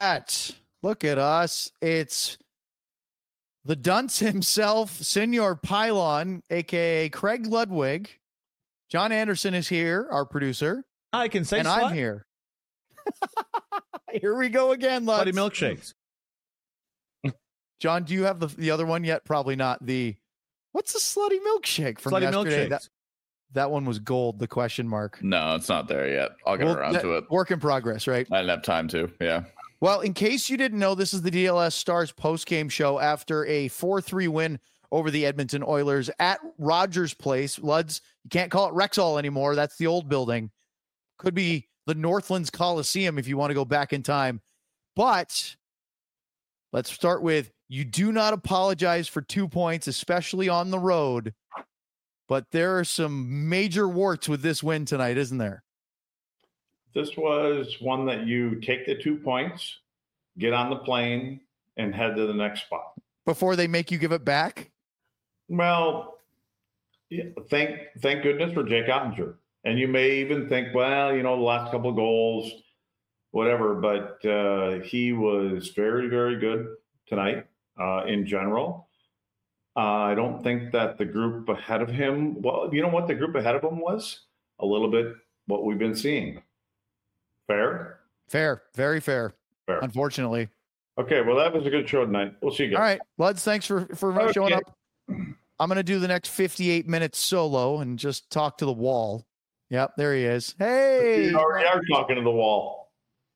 Look at us. It's the dunce himself, Senor Pylon, a.k.a. Craig Ludwig. John Anderson is here, our producer. I can say and slut. I'm here. Here we go again, Lutz. Slutty milkshakes. John, do you have the other one yet? Probably not. What's the slutty milkshake from Slutty yesterday? milkshakes. That one was gold, the question mark. No, it's not there yet. I'll get around to it. Work in progress, right? I didn't have time to, yeah. Well, in case you didn't know, this is the DLS Stars post-game show after a 4-3 win over the Edmonton Oilers at Rogers Place. Luds, you can't call it Rexall anymore. That's the old building. Could be the Northlands Coliseum if you want to go back in time. But let's start with, you do not apologize for 2 points, especially on the road. But there are some major warts with this win tonight, isn't there? This was one that you take the 2 points, get on the plane, and head to the next spot. Before they make you give it back? Well, yeah, thank goodness for Jake Ottinger. And you may even think, well, the last couple of goals, whatever. But he was very, very good tonight in general. I don't think that the group ahead of him, well, you know what the group ahead of him was? A little bit what we've been seeing. Fair? Fair. Very fair. Fair. Unfortunately. Okay, well, that was a good show tonight. We'll see you guys. All right, Luds, thanks for showing up. I'm going to do the next 58 minutes solo and just talk to the wall. Yep, there he is. Hey! You already are talking to the wall.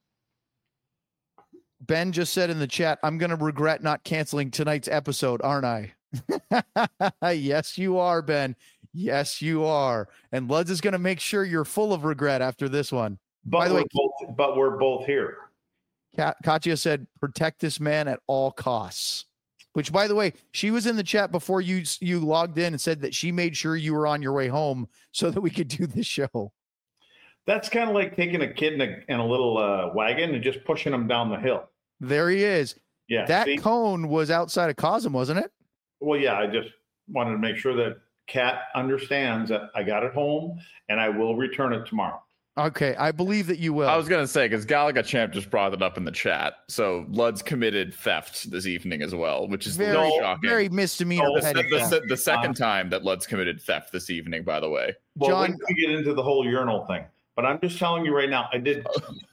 Ben just said in the chat, I'm going to regret not canceling tonight's episode, aren't I? Yes, you are, Ben. Yes, you are. And Luds is going to make sure you're full of regret after this one. But By the way, we're both here. Katya said, protect this man at all costs. Which, by the way, she was in the chat before you logged in and said that she made sure you were on your way home so that we could do this show. That's kind of like taking a kid in a little wagon and just pushing him down the hill. There he is. Yeah. That cone was outside of Cosm, wasn't it? Well, yeah, I just wanted to make sure that Kat understands that I got it home and I will return it tomorrow. Okay, I believe that you will. I was going to say, because Galaga Champ just brought it up in the chat. So Lud's committed theft this evening as well, which is very shocking. Very misdemeanor. The second time that Lud's committed theft this evening, by the way. Well, John, we get into the whole urinal thing. But I'm just telling you right now, I did.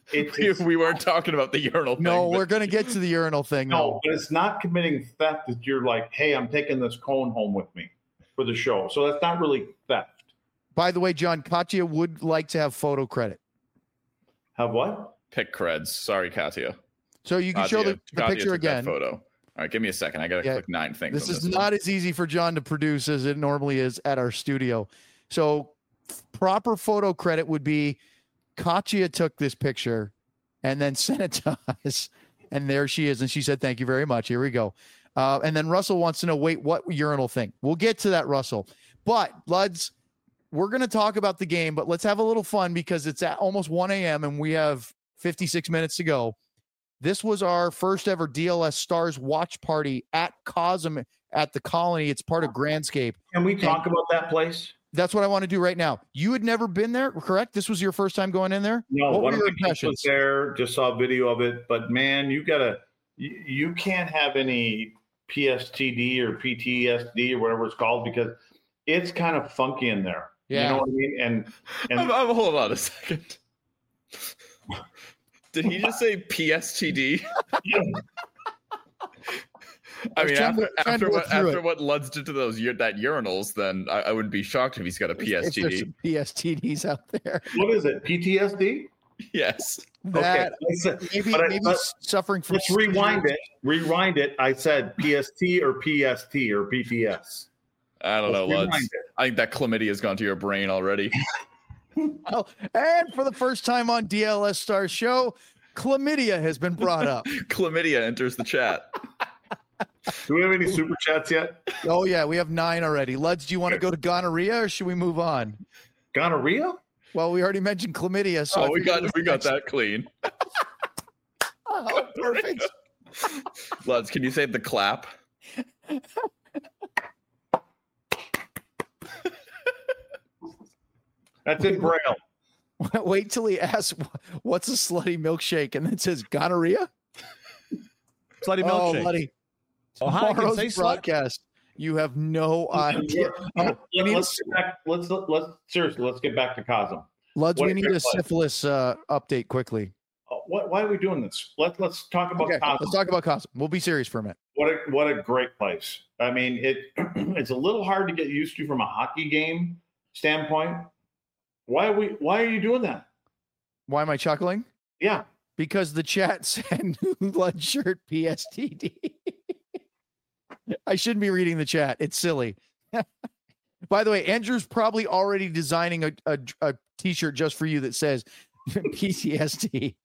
We weren't talking about the urinal thing. No, we're going to get to the urinal thing. No, but it's not committing theft that you're like, hey, I'm taking this cone home with me for the show. So that's not really theft. By the way, John, Katya would like to have photo credit. Have what? Pick creds. Sorry, Katya. So you can show the picture again. Photo. All right, give me a second. I got to click 9 things. This is not as easy for John to produce as it normally is at our studio. So proper photo credit would be Katya took this picture and then sent it to us. And there she is. And she said, thank you very much. Here we go. And then Russell wants to know, wait, what urinal thing? We'll get to that, Russell. But, Luds, we're going to talk about the game, but let's have a little fun because it's at almost 1 a.m. and we have 56 minutes to go. This was our first ever DLS Stars watch party at Cosm at the Colony. It's part of Grandscape. Can we talk about that place? That's what I want to do right now. You had never been there, correct? This was your first time going in there? No, what one were of your the kids was there, just saw a video of it. But, man, you can't have any PSTD or PTSD or whatever it's called because it's kind of funky in there. Yeah. You know what I mean? And hold on a second. Did he just say PSTD? I mean, after what Luds did to that urinals, then I wouldn't be shocked if he's got a PSTD. There's some PSTDs out there. What is it? PTSD? Yes. That okay. maybe suffering from. Let's rewind it. Rewind it. I said PST or PST or PTS. I don't know, Luds. I think that chlamydia has gone to your brain already. Oh, and for the first time on DLS Stars show, chlamydia has been brought up. Chlamydia enters the chat. Do we have any super chats yet? Oh, yeah, we have 9 already. Luds, do you want to go to gonorrhea or should we move on? Gonorrhea? Well, we already mentioned chlamydia. So we got that clean. Oh, perfect. Luds, can you say the clap? That's in Braille. Wait till he asks, what's a slutty milkshake? And then says gonorrhea? Slutty Oh, milkshake. buddy. Oh, hi, I can Tomorrow's say slut. broadcast. You have no idea. Let's get back. Let's seriously. Let's get back to Cosm. Luds, What we a need great a play. syphilis update quickly. Why are we doing this? Let's talk about Okay, Cosm. let's talk about Cosm. We'll be serious for a minute. What a great place. I mean, it's a little hard to get used to from a hockey game standpoint. Why are you doing that? Why am I chuckling? Yeah. Because the chat said new Lud shirt PSTD. I shouldn't be reading the chat. It's silly. By the way, Andrew's probably already designing a t-shirt just for you that says PTSD.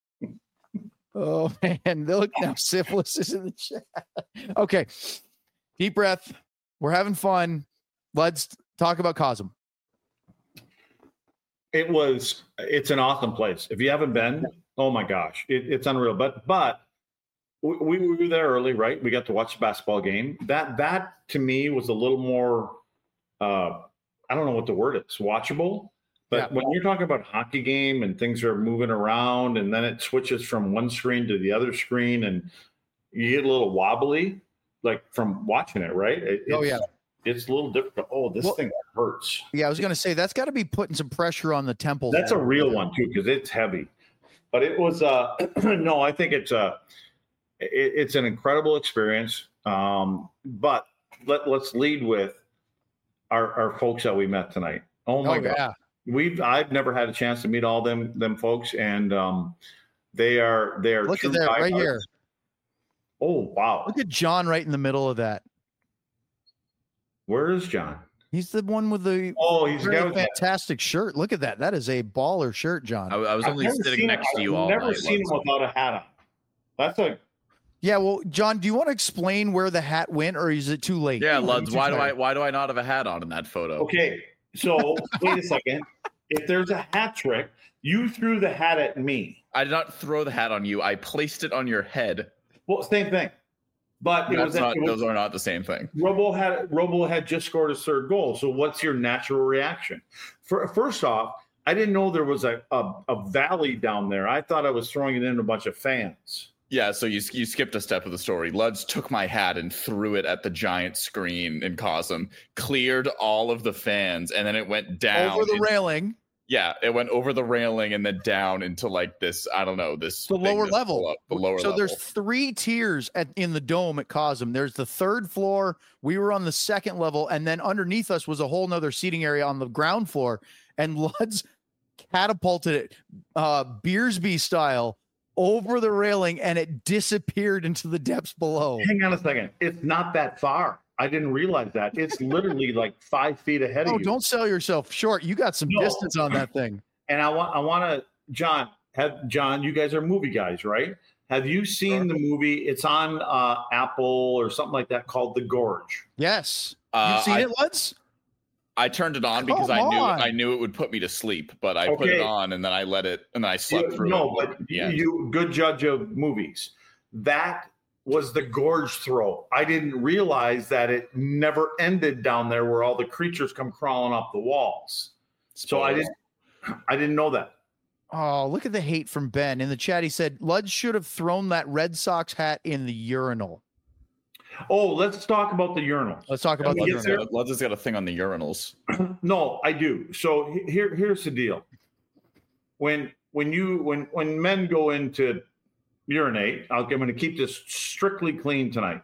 Oh man, look now, syphilis is in the chat. Okay, deep breath. We're having fun. Let's talk about Cosm. It's an awesome place. If you haven't been, oh my gosh, it's unreal. But we were there early, right? We got to watch the basketball game. That to me was a little more, I don't know what the word is, watchable. But when you're talking about hockey game and things are moving around and then it switches from one screen to the other screen and you get a little wobbly, like from watching it, right? It's a little difficult. Oh, this thing hurts. Yeah, I was going to say that's got to be putting some pressure on the temple. That's a real one too, because it's heavy. But it was no, I think it's an incredible experience. But let's lead with our folks that we met tonight. Oh my God. Yeah. I've never had a chance to meet all them folks, and they are Look at that right here. Oh wow! Look at John right in the middle of that. Where is John? He's the one with the he's the guy with fantastic shirt. Look at that. That is a baller shirt, John. I was only sitting next to you all night. I've never seen him without a hat on. That's Yeah, well, John, do you want to explain where the hat went, or is it too late? Yeah, Luds, why do I not have a hat on in that photo? Okay, so wait a second. If there's a hat trick, you threw the hat at me. I did not throw the hat on you. I placed it on your head. Well, same thing. But those are not the same thing. Robo had just scored his third goal. So what's your natural reaction? First off, I didn't know there was a valley down there. I thought I was throwing it in a bunch of fans. Yeah, so you skipped a step of the story. Luds took my hat and threw it at the giant screen in Cosm, cleared all of the fans, and then it went down. Over the railing. Yeah, it went over the railing and then down into like this, I don't know, the lower level. So there's 3 tiers in the dome at Cosm. There's the 3rd floor. We were on the 2nd level, and then underneath us was a whole nother seating area on the ground floor. And Luds catapulted it, Beersby style, over the railing, and it disappeared into the depths below. Hang on a second. It's not that far. I didn't realize that. It's literally like 5 feet ahead of you. Oh, don't sell yourself short. You got some distance on that thing. And I want to, John, you guys are movie guys, right? Have you seen the movie? It's on Apple or something like that called The Gorge. Yes. You've seen it, Luds? I turned it on because I knew it would put me to sleep, but I put it on and then I let it and then I slept through it. No, but you good judge of movies. That was the gorge throw. I didn't realize that it never ended down there where all the creatures come crawling up the walls. So I didn't know that. Oh, look at the hate from Ben. In the chat, he said, Luds should have thrown that Red Sox hat in the urinal. Oh, let's talk about the urinal. Let's talk about the urinal. Luds has got a thing on the urinals. No, I do. So here's the deal. When men go into urinate, I'm going to keep this strictly clean tonight.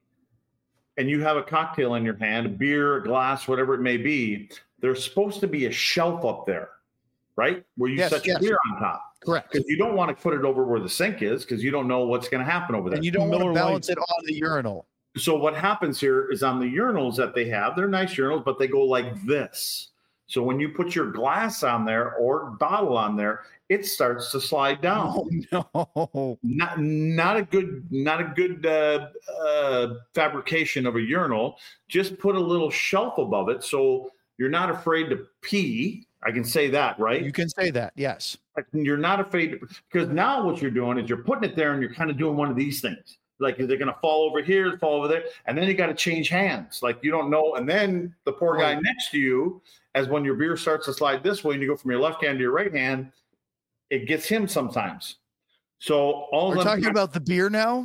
And you have a cocktail in your hand, a beer, a glass, whatever it may be. There's supposed to be a shelf up there, right? Where you set your beer on top. Correct. Because you don't want to put it over where the sink is because you don't know what's going to happen over there. And you don't want to balance it on the urinal. So what happens here is on the urinals that they have, they're nice urinals, but they go like this. So when you put your glass on there or bottle on there, it starts to slide down. Oh, no. Not a good fabrication of a urinal. Just put a little shelf above it so you're not afraid to pee. I can say that, right? You can say that, yes. You're not afraid because now what you're doing is you're putting it there and you're kind of doing one of these things. Like, is it going to fall over here, fall over there? And then you got to change hands. Like, you don't know. And then the poor guy next to you, as when your beer starts to slide this way and you go from your left hand to your right hand, it gets him sometimes. So we're talking about the beer now?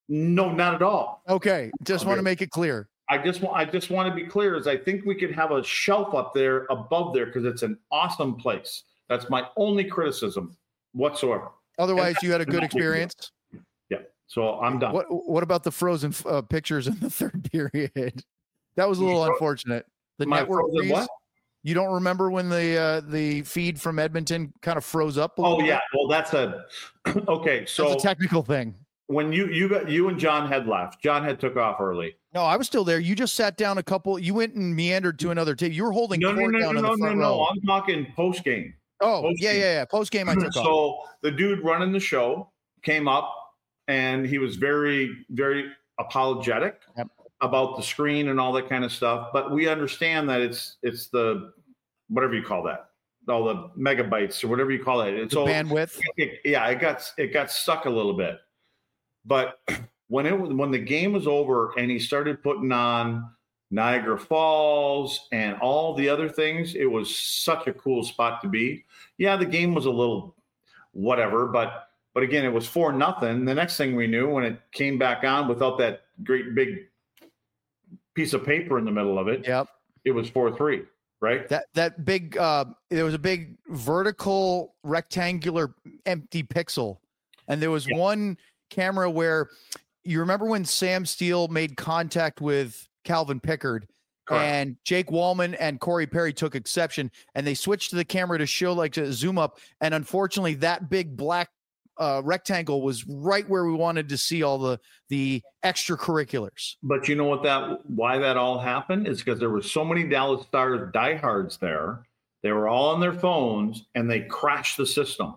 No, not at all. Okay, just want to make it clear. I just want to be clear. Is I think we could have a shelf up there above there because it's an awesome place. That's my only criticism whatsoever. Otherwise, you had a good experience. Yeah. So I'm done. What about the frozen pictures in the third period? That was a little unfortunate. The network freeze. What? You don't remember when the feed from Edmonton kind of froze up? Oh yeah. Well, that's okay. So that's a technical thing. When you and John had left, John had took off early. No, I was still there. You just sat down a couple. You went and meandered to another table. You were holding no. row. I'm talking post game. Oh, yeah. Post game, I took off. So the dude running the show came up, and he was very, very apologetic about the screen and all that kind of stuff. But we understand that it's the whatever you call that, all the megabytes or whatever you call it. It's the bandwidth. It got stuck a little bit. But when the game was over and he started putting on Niagara Falls and all the other things, it was such a cool spot to be. Yeah, the game was a little whatever, but again, it was 4-0. The next thing we knew, when it came back on without that great big piece of paper in the middle of it, it was 4-3. Right. That big there was a big vertical rectangular empty pixel, and there was one camera where you remember when Sam Steele made contact with Calvin Pickard. Correct. And Jake Wallman and Corey Perry took exception, and they switched to the camera to show to zoom up. And unfortunately, that big black rectangle was right where we wanted to see all the extracurriculars. But you know why that all happened is because there were so many Dallas Stars diehards there. They were all on their phones, and they crashed the system.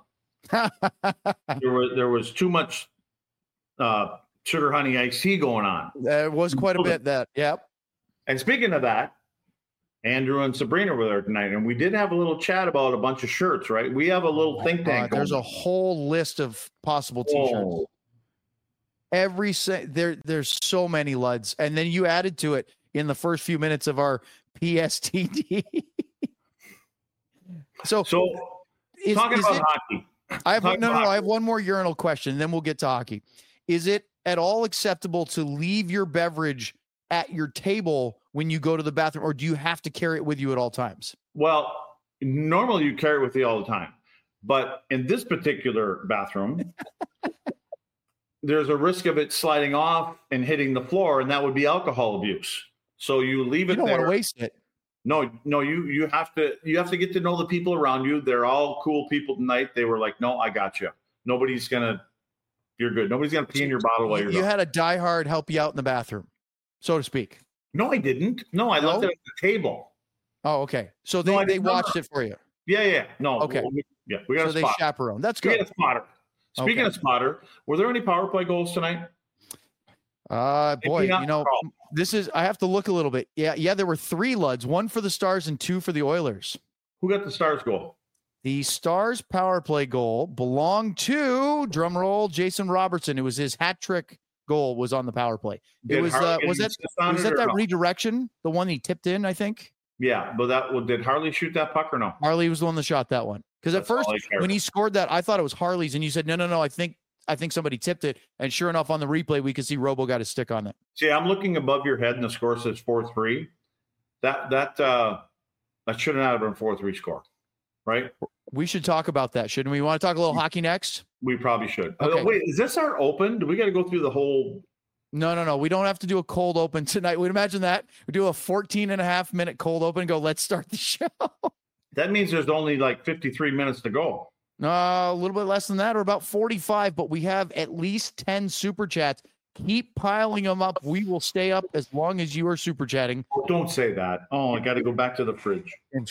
There was too much sugar honey iced tea going on. There was quite a bit that. Yep. And speaking of that, Andrew and Sabrina were there tonight, and we did have a little chat about a bunch of shirts, right? We have a little think tank. There's a whole list of possible T-shirts. There's so many Luds, and then you added to it in the first few minutes of our PSTD. so talking about hockey. I have one more urinal question, then we'll get to hockey. Is it at all acceptable to leave your beverage at your table when you go to the bathroom, or do you have to carry it with you at all times? Well, normally you carry it with you all the time, but in this particular bathroom, there's a risk of it sliding off and hitting the floor, and that would be alcohol abuse. So you leave it there. You don't want to waste it. No, you have to get to know the people around you. They're all cool people tonight. They were like, no, I got you. You're good. Nobody's gonna pee in your bottle while you're You gone. had a diehard help you out in the bathroom, so to speak. No, I didn't. No, I left it at the table. Oh, okay. So they watched it for you. Yeah. No. Okay. We got a they spot. chaperone. That's good. We got a spotter. Speaking of spotter, were there any power play goals tonight? Boy, I have to look a little bit. Yeah, there were 3 Luds, 1 for the Stars and 2 for the Oilers. Who got the Stars goal? The Stars power play goal belonged to, drumroll, Jason Robertson. It was his hat trick goal was on the power play. It was that redirection, the one he tipped in, I think? Yeah, but did Harley shoot that puck or no? Harley was the one that shot that one. Because at first, when he scored that, I thought it was Harley's, and you said, no, I think somebody tipped it. And sure enough, on the replay, we could see Robo got his stick on it. See, I'm looking above your head, and the score says 4-3. That should not have been 4-3 score, right? We should talk about that, shouldn't we? Want to talk a little hockey next? We probably should. Okay. Wait, is this our open? Do we got to go through the whole? No. We don't have to do a cold open tonight. We'd imagine that. We do a 14.5-minute cold open and go, let's start the show. That means there's only like 53 minutes to go. A little bit less than that, or about 45, but we have at least 10 super chats. Keep piling them up. We will stay up as long as you are super chatting. Oh, don't say that. Oh, I got to go back to the fridge.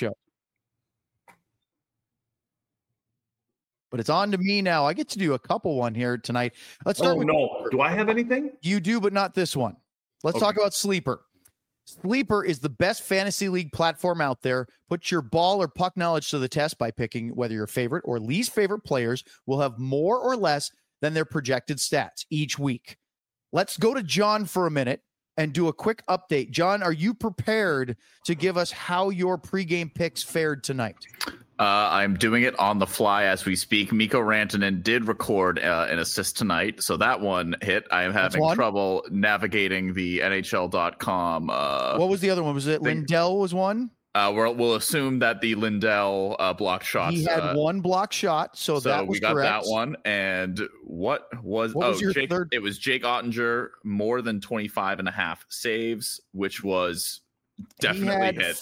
But it's on to me now. I get to do a couple one here tonight. Let's start with. No. Do I have anything? You do, but not this one. Let's talk about Sleeper. Sleeper is the best fantasy league platform out there. Put your ball or puck knowledge to the test by picking whether your favorite or least favorite players will have more or less than their projected stats each week. Let's go to John for a minute and do a quick update. John, are you prepared to give us how your pregame picks fared tonight? I'm doing it on the fly as we speak. Mikko Rantanen did record an assist tonight, so that one hit. I am having trouble navigating the NHL.com. What was the other one? Was it Lindell was one? We'll assume that the Lindell blocked shots. He had one block shot, so that was we got correct. that one. And what was your third? It was Jake Ottinger, more than 25.5 saves, which was definitely hit.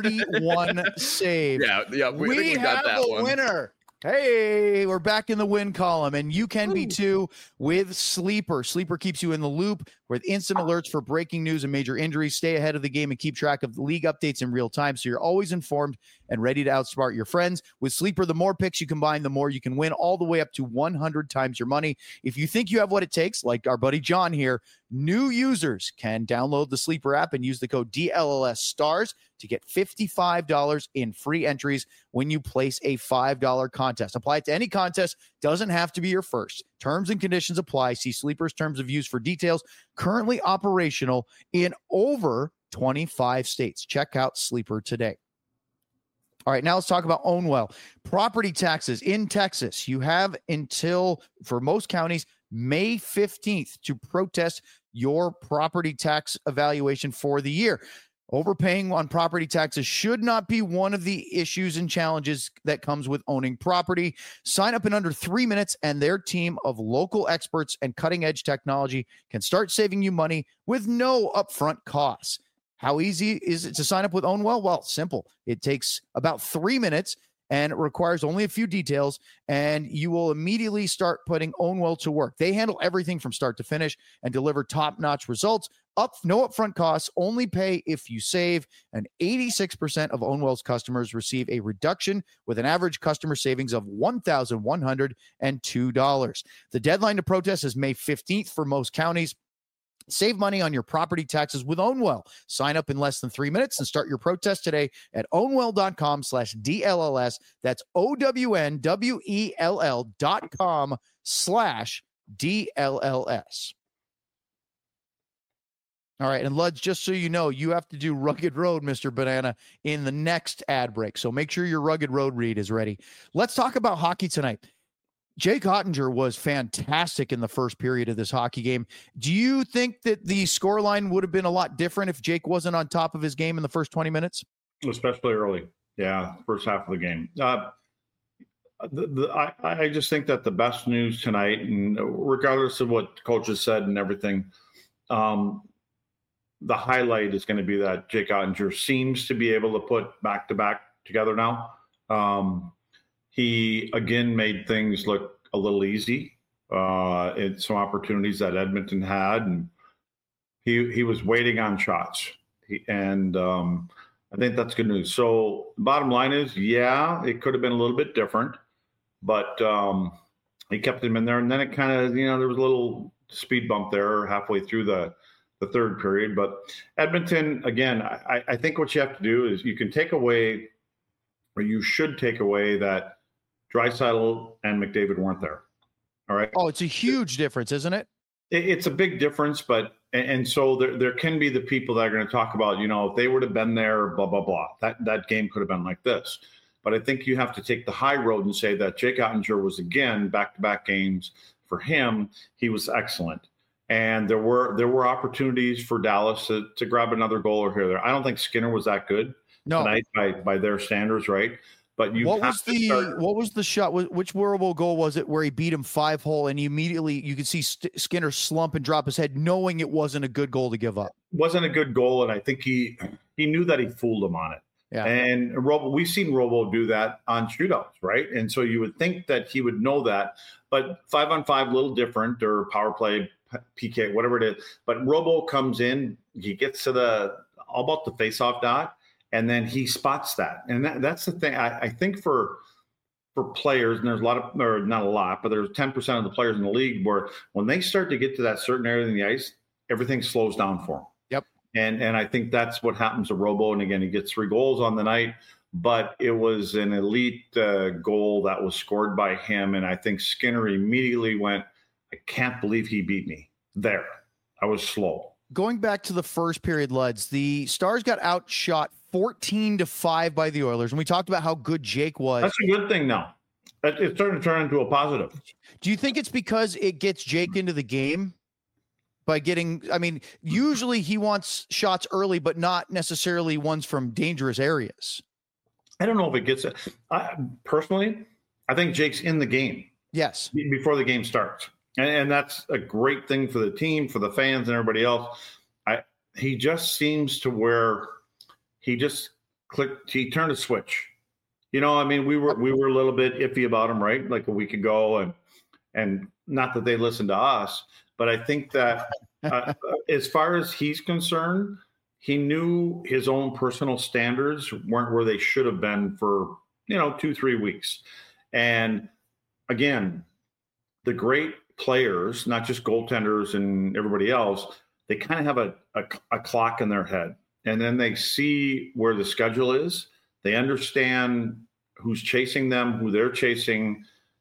41 saves. Yeah. We got have that a one. winner. Hey, we're back in the win column, and you can be too with Sleeper. Sleeper keeps you in the loop with instant alerts for breaking news and major injuries. Stay ahead of the game and keep track of the league updates in real time, so you're always informed and ready to outsmart your friends. With Sleeper, the more picks you combine, the more you can win, all the way up to 100 times your money. If you think you have what it takes, like our buddy John here, new users can download the Sleeper app and use the code DLLS STARS to get $55 in free entries when you place a $5 contest. Apply it to any contest. Doesn't have to be your first. Terms and conditions apply. See Sleeper's terms of use for details. Currently operational in over 25 states. Check out Sleeper today. All right, now let's talk about Ownwell. Property taxes in Texas. You have until, for most counties, May 15th to protest your property tax evaluation for the year. Overpaying on property taxes should not be one of the issues and challenges that comes with owning property. Sign up in under 3 minutes, and their team of local experts and cutting-edge technology can start saving you money with no upfront costs. How easy is it to sign up with Ownwell? Well, simple. It takes about 3 minutes, and it requires only a few details, and you will immediately start putting Ownwell to work. They handle everything from start to finish and deliver top-notch results. No upfront costs, only pay if you save, and 86% of Ownwell's customers receive a reduction with an average customer savings of $1,102. The deadline to protest is May 15th for most counties. Save money on your property taxes with Ownwell. Sign up in less than 3 minutes and start your protest today at ownwell.com/DLLS. That's OWNWELL.com/DLLS. All right, and Luds, just so you know, you have to do Rugged Road, Mr. Banana, in the next ad break. So make sure your Rugged Road read is ready. Let's talk about hockey tonight. Jake Ottinger was fantastic in the first period of this hockey game. Do you think that the scoreline would have been a lot different if Jake wasn't on top of his game in the first 20 minutes? Especially early. Yeah, first half of the game. I just think that the best news tonight, and regardless of what coaches said and everything, the highlight is going to be that Jake Ottinger seems to be able to put back-to-back together now. He, again, made things look a little easy in some opportunities that Edmonton had, and he was waiting on shots. I think that's good news. So the bottom line is, yeah, it could have been a little bit different, but he kept him in there, and then it kind of, there was a little speed bump there halfway through the third period. But Edmonton, again, I think what you have to do is you can take away, or you should take away, that Draisaitl and McDavid weren't there. All right. Oh, it's a huge difference, isn't it? It's a big difference, but so there can be the people that are going to talk about, if they would have been there, blah, blah, blah. That game could have been like this. But I think you have to take the high road and say that Jake Ottinger was, again, back-to-back games. For him, he was excellent. And there were opportunities for Dallas to grab another goal or here or there. I don't think Skinner was that good tonight by their standards, right? But what was the shot? Which World goal was it where he beat him 5-hole and you could see Skinner slump and drop his head, knowing it wasn't a good goal to give up? Wasn't a good goal, and I think he knew that he fooled him on it. Yeah. And we've seen Robo do that on shootouts, right? And so you would think that he would know that, but 5-on-5 a little different, or power play, PK, whatever it is. But Robo comes in, he gets to all about the face-off dot, and then he spots that. And that's the thing. I think for players, and there's a lot of, or not a lot, but there's 10% of the players in the league where when they start to get to that certain area in the ice, everything slows down for them. Yep. And I think that's what happens to Robo. And again, he gets 3 goals on the night, but it was an elite goal that was scored by him. And I think Skinner immediately went, I can't believe he beat me there. I was slow. going back to the first period, Luds, the Stars got outshot 14-5 by the Oilers. And we talked about how good Jake was. That's a good thing now. It's starting to turn into a positive. Do you think it's because it gets Jake into the game by getting, I mean, usually he wants shots early, but not necessarily ones from dangerous areas. I don't know if it gets it. Personally, I think Jake's in the game. Yes. Before the game starts. And that's a great thing for the team, for the fans and everybody else. He just seems to where he just clicked, he turned a switch. You know, I mean, we were a little bit iffy about him, right? Like a week ago, and not that they listened to us, but I think that as far as he's concerned, he knew his own personal standards weren't where they should have been for, 2-3 weeks. And again, the great players, not just goaltenders and everybody else, they kind of have a clock in their head, and then they see where the schedule is. They understand who's chasing them, who they're chasing,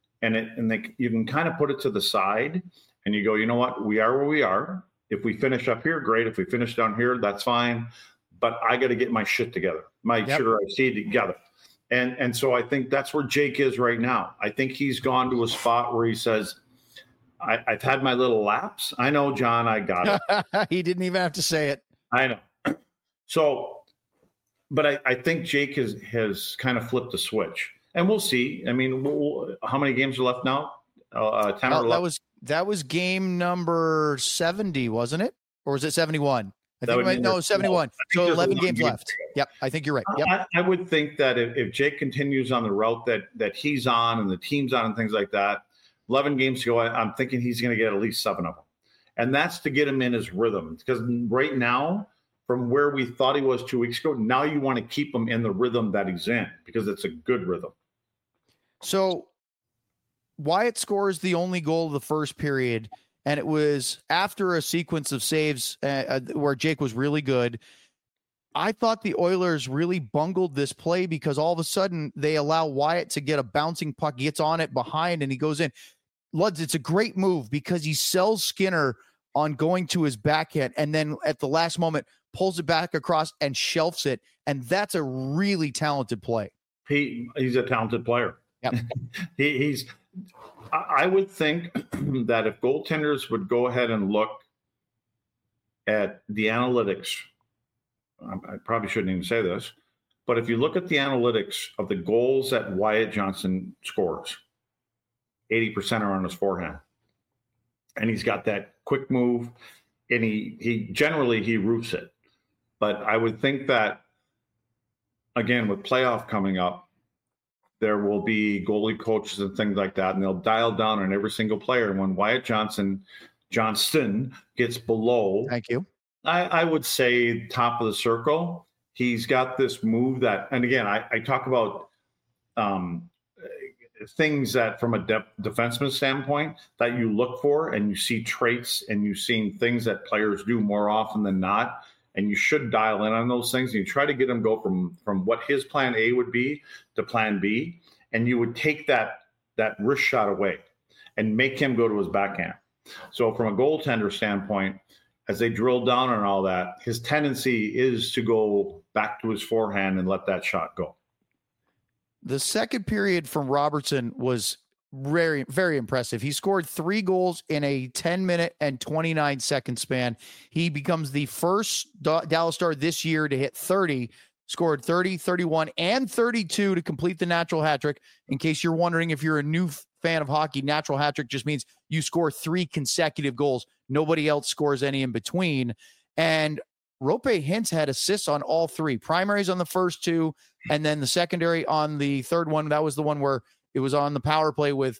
you can kind of put it to the side, and you go, you know what? We are where we are. If we finish up here, great. If we finish down here, that's fine. But I got to get my shit together, my sugar iced tea together. And so I think that's where Jake is right now. I think he's gone to a spot where he says, I've had my little lapse. I know, John, I got it. He didn't even have to say it. I know. So, but I think Jake has kind of flipped the switch, and we'll see. I mean, how many games are left now? 10 or 11? That was game number 70, wasn't it? Or was it 71? I think 71. So 11 games left. Yep, I think you're right. Yep. I would think that if Jake continues on the route that he's on and the team's on and things like that, 11 games to go, I'm thinking he's going to get at least 7 of them. And that's to get him in his rhythm. Because right now, from where we thought he was 2 weeks ago, now you want to keep him in the rhythm that he's in because it's a good rhythm. So Wyatt scores the only goal of the first period, and it was after a sequence of saves where Jake was really good. I thought the Oilers really bungled this play because all of a sudden they allow Wyatt to get a bouncing puck, gets on it behind, and he goes in. Luds, it's a great move because he sells Skinner on going to his backhand, and then at the last moment pulls it back across and shelves it, and that's a really talented play. He's a talented player. Yep. I would think that if goaltenders would go ahead and look at the analytics, I probably shouldn't even say this, but if you look at the analytics of the goals that Wyatt Johnston scores, 80% are on his forehand. And he's got that quick move, and he generally roofs it. But I would think that, again, with playoff coming up, there will be goalie coaches and things like that, and they'll dial down on every single player. And when Wyatt Johnston gets below, thank you, I would say top of the circle. He's got this move that, and again, I talk about things that from a defenseman standpoint that you look for, and you see traits, and you've seen things that players do more often than not. And you should dial in on those things. And you try to get him go from what his plan A would be to plan B. And you would take that wrist shot away and make him go to his backhand. So from a goaltender standpoint, as they drill down on all that, his tendency is to go back to his forehand and let that shot go. The second period from Robertson was very, very impressive. He scored 3 goals in a 10-minute and 29-second span. He becomes the first Dallas Star this year to hit 30, scored 30, 31, and 32 to complete the natural hat trick. In case you're wondering, if you're a new fan of hockey, natural hat trick just means you score 3 consecutive goals. Nobody else scores any in between. And Roope Hintz had assists on all 3. Primaries on the first 2, and then the secondary on the third one. That was the one where it was on the power play with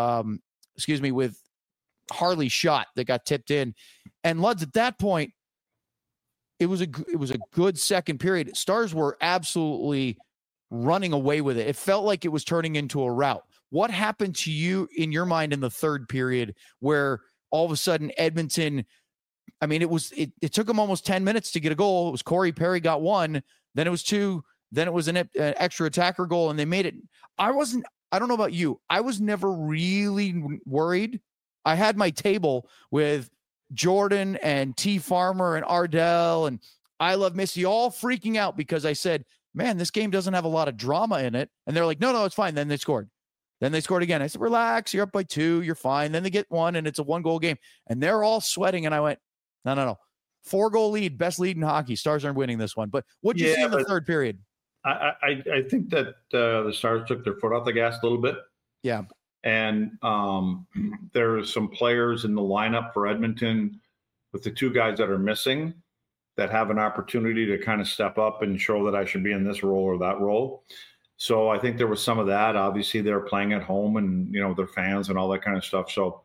Harley's shot that got tipped in. And Luds, at that point, it was a good second period. Stars were absolutely running away with it. It felt like it was turning into a rout. What happened to you in your mind in the third period where all of a sudden Edmonton, I mean, it took them almost 10 minutes to get a goal. It was Corey Perry got 1, then it was 2, then it was an extra attacker goal, and they made it. I don't know about you. I was never really worried. I had my table with Jordan and T Farmer and Ardell and I Love Missy all freaking out because I said, man, this game doesn't have a lot of drama in it. And they're like, no, it's fine. Then they scored. Then they scored again. I said, relax, you're up by 2, you're fine. Then they get 1 and it's a 1-goal game. And they're all sweating. And I went, no. 4-goal lead, best lead in hockey. Stars aren't winning this one. But what'd you see in the third period? I think that the Stars took their foot off the gas a little bit. Yeah. And there are some players in the lineup for Edmonton with the 2 guys that are missing that have an opportunity to kind of step up and show that I should be in this role or that role. So I think there was some of that. Obviously, they're playing at home and, their fans and all that kind of stuff. So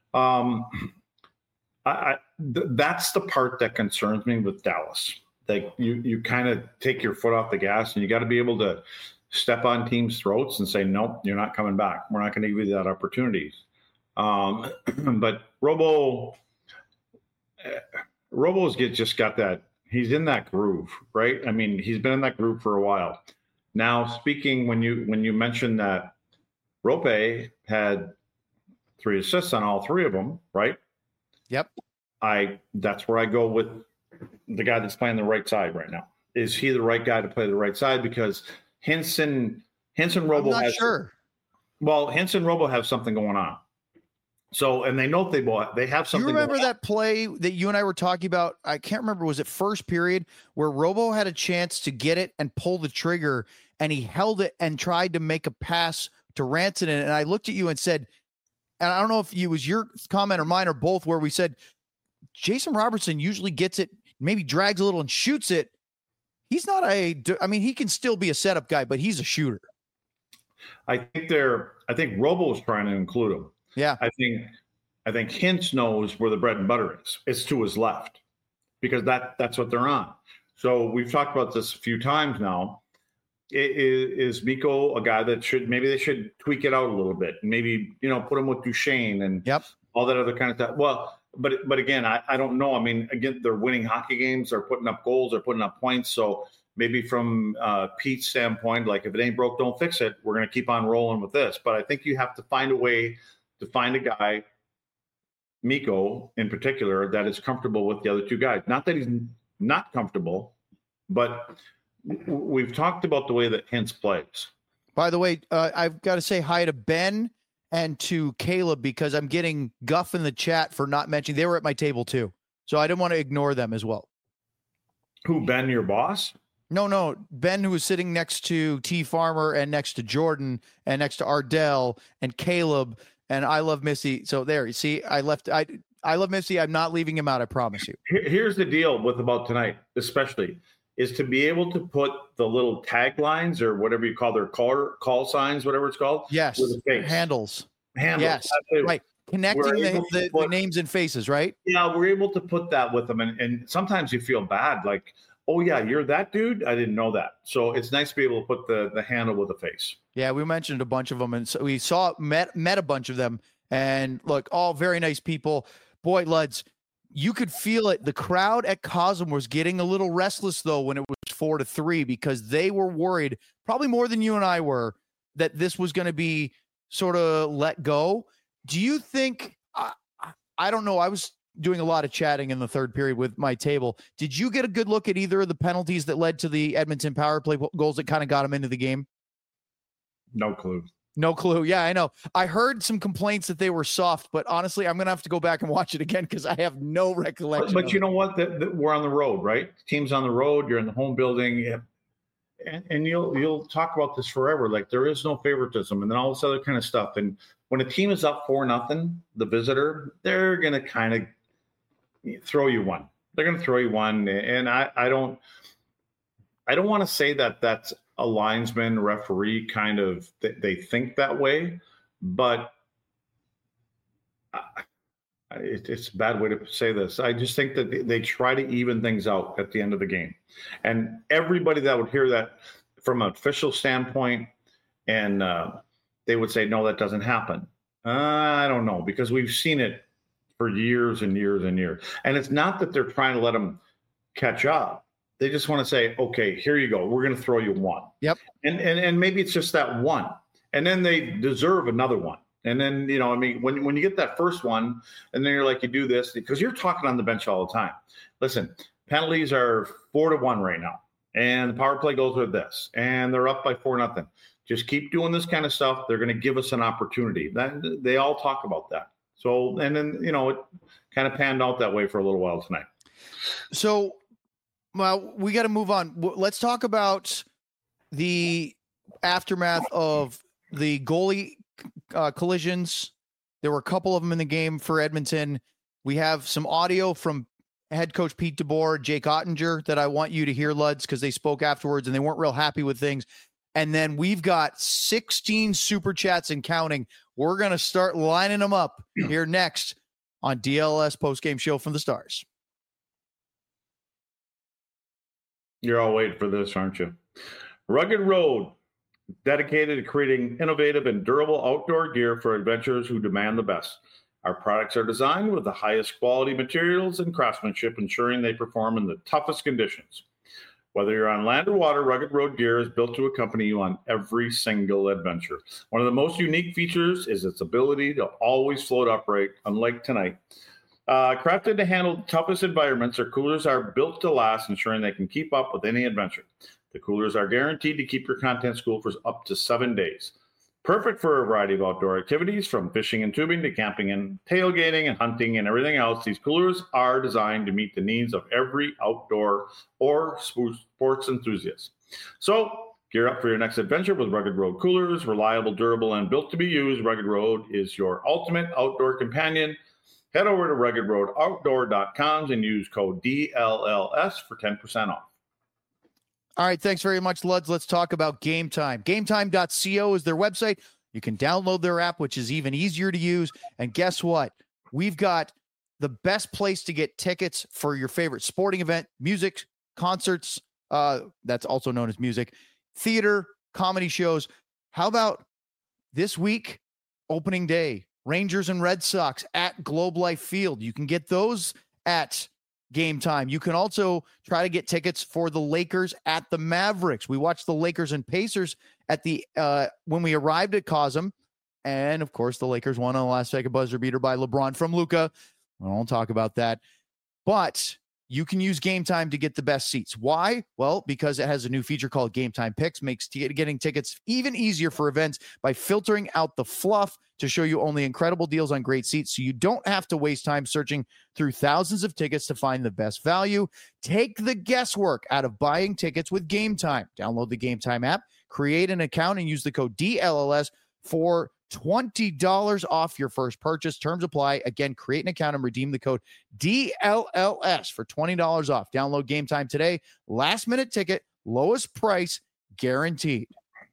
that's the part that concerns me with Dallas. Like you kind of take your foot off the gas and you got to be able to step on teams' throats and say, nope, you're not coming back. We're not going to give you that opportunity. But Robo's just got that. He's in that groove, right? I mean, he's been in that groove for a while. Now, speaking when you mentioned that Rope had 3 assists on all 3 of them, right? Yep. That's where I go with the guy that's playing the right side right now. Is he the right guy to play the right side? Because Hintz and Robo I'm not sure. Well, Hintz and Robo have something going on. So, and they know they have something. You remember that play that you and I were talking about? I can't remember. Was it first period where Robo had a chance to get it and pull the trigger and he held it and tried to make a pass to Rantanen? And I looked at you and said, and I don't know if it was your comment or mine or both, where we said, Jason Robertson usually gets it, maybe drags a little and shoots it. He's not he can still be a setup guy, but he's a shooter. I think Robo is trying to include him. Yeah. I think Hintz knows where the bread and butter is. It's to his left because that's what they're on. So we've talked about this a few times now. Is Mikko a guy that they should tweak it out a little bit? Maybe, put him with Duchesne and all that other kind of stuff. Well, but again, I don't know. I mean, again, they're winning hockey games. They're putting up goals. They're putting up points. So maybe from Pete's standpoint, like if it ain't broke, don't fix it. We're going to keep on rolling with this. But I think you have to find a way to find a guy, Mikko in particular, that is comfortable with the other 2 guys. Not that he's not comfortable, but we've talked about the way that Hintz plays. By the way, I've got to say hi to Ben and to Caleb because I'm getting guff in the chat for not mentioning. They were at my table too. So I didn't want to ignore them as well. Who, Ben, your boss? No. Ben, who was sitting next to T Farmer and next to Jordan and next to Ardell and Caleb and I Love Missy. So there, you see, I Love Missy. I'm not leaving him out. I promise you. Here's the deal with about tonight, especially, is to be able to put the little taglines or whatever you call their call signs, whatever it's called. Yes. With the face. Handles. Yes. Right. Connecting the names and faces, right? Yeah, we're able to put that with them. And sometimes you feel bad, like, oh, yeah, you're that dude? I didn't know that. So it's nice to be able to put the handle with a face. Yeah, we mentioned a bunch of them. And so we met a bunch of them. And look, all very nice people. Boy, Luds, you could feel it. The crowd at Cosm was getting a little restless, though, when it was 4-3, because they were worried, probably more than you and I were, that this was going to be sort of let go. Do you think, I don't know, I was doing a lot of chatting in the third period with my table. Did you get a good look at either of the penalties that led to the Edmonton power play goals that kind of got them into the game? No clue. No clue. Yeah, I know. I heard some complaints that they were soft, but honestly, I'm going to have to go back and watch it again because I have no recollection. But you know what? We're on the road, right? The team's on the road. You're in the home building. And you'll talk about this forever. Like, there is no favoritism and then all this other kind of stuff. And when a team is up 4-0, the visitor, they're going to kind of throw you one. They're going to throw you one. And I don't want to say that that's a linesman, referee kind of, they think that way, but it's a bad way to say this. I just think that they try to even things out at the end of the game. And everybody that would hear that from an official standpoint, and they would say, no, that doesn't happen. I don't know, because we've seen it for years and years and years. And it's not that they're trying to let them catch up. They just want to say, okay, here you go. We're going to throw you one. Yep. And maybe it's just that one. And then they deserve another one. And then, I mean, when you get that first one and then you're like, you do this because you're talking on the bench all the time. Listen, penalties are 4-1 right now. And the power play goes with this. And they're up by 4-0. Just keep doing this kind of stuff. They're going to give us an opportunity. They all talk about that. So, and then, it kind of panned out that way for a little while tonight. So, well, we got to move on. Let's talk about the aftermath of the goalie collisions. There were a couple of them in the game for Edmonton. We have some audio from head coach Pete DeBoer, Jake Ottinger, that I want you to hear, Luds, because they spoke afterwards and they weren't real happy with things. And then we've got 16 super chats and counting. We're going to start lining them up here next on DLS postgame show from the Stars. You're all waiting for this, aren't you? Rugged Road, dedicated to creating innovative and durable outdoor gear for adventurers who demand the best. Our products are designed with the highest quality materials and craftsmanship, ensuring they perform in the toughest conditions. Whether you're on land or water, Rugged Road gear is built to accompany you on every single adventure. One of the most unique features is its ability to always float upright, unlike tonight. Crafted to handle the toughest environments, our coolers are built to last, ensuring they can keep up with any adventure. The coolers are guaranteed to keep your contents cool for up to 7 days. Perfect for a variety of outdoor activities, from fishing and tubing to camping and tailgating and hunting and everything else. These coolers are designed to meet the needs of every outdoor or sports enthusiast. So gear up for your next adventure with Rugged Road coolers. Reliable, durable, and built to be used, Rugged Road is your ultimate outdoor companion. Head over to ruggedroadoutdoor.com and use code DLLS for 10% off. All right, thanks very much, Luds. Let's talk about Game Time. GameTime.co is their website. You can download their app, which is even easier to use. And guess what? We've got the best place to get tickets for your favorite sporting event, music, concerts, that's also known as music, theater, comedy shows. How about this week, opening day, Rangers and Red Sox at Globe Life Field? You can get those at Game Time. You can also try to get tickets for the Lakers at the Mavericks. We watched the Lakers and Pacers at the when we arrived at Cosm, and of course the Lakers won on the last second buzzer beater by LeBron from Luka. I won't talk about that, but you can use Game Time to get the best seats. Why? Well, because it has a new feature called Game Time Picks, makes getting tickets even easier for events by filtering out the fluff to show you only incredible deals on great seats, so you don't have to waste time searching through thousands of tickets to find the best value. Take the guesswork out of buying tickets with Game Time. Download the Game Time app, create an account, and use the code DLLS for $20 off your first purchase. Terms apply. Again, create an account and redeem the code DLLS for $20 off. Download Game Time today. Last minute ticket, lowest price guaranteed.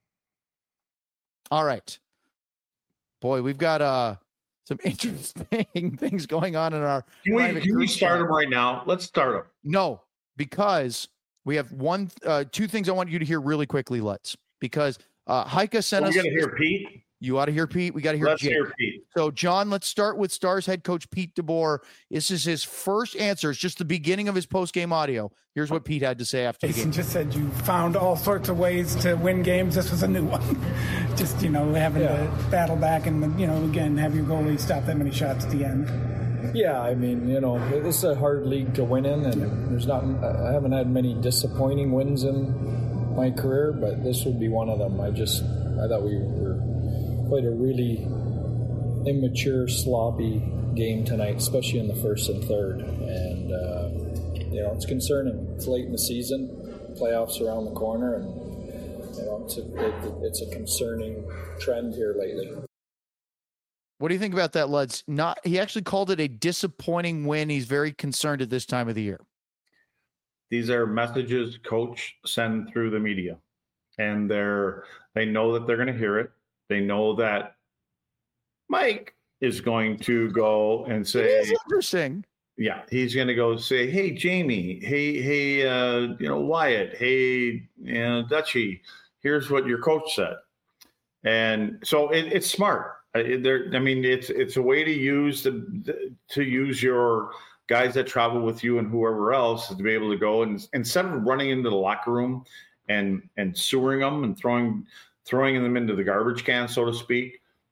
All right. Boy, we've got some interesting things going on in our. Can we start them right now? Let's start them. No, because we have two things I want you to hear really quickly. Because Heike sent us. You got to hear Pete. You ought to hear Pete. We got to hear Let's Jake. hear Pete. So, John, let's start with Stars head coach Pete DeBoer. This is his first answer. It's just the beginning of his post-game audio. Here's what Pete had to say after the game. Jason just said you found all sorts of ways to win games. This was a new one. Just, having to battle back and, again, have your goalie stop that many shots at the end. Yeah, I mean, this is a hard league to win in, and I haven't had many disappointing wins in my career, but this would be one of them. I thought we played a really immature, sloppy game tonight, especially in the first and third. And, it's concerning. It's late in the season, playoffs around the corner, and, it's a concerning trend here lately. What do you think about that, Luds? He actually called it a disappointing win. He's very concerned at this time of the year. These are messages coach send through the media, and they know that they're going to hear it. They know that Mike is going to go and say, it is interesting. Yeah, he's going to go say, hey, Jamie, hey, Wyatt, hey, Dutchie, here's what your coach said. And so it's smart. It's a way to use your guys that travel with you and whoever else to be able to go and instead of running into the locker room and sewering them and throwing them into the garbage can, so to speak,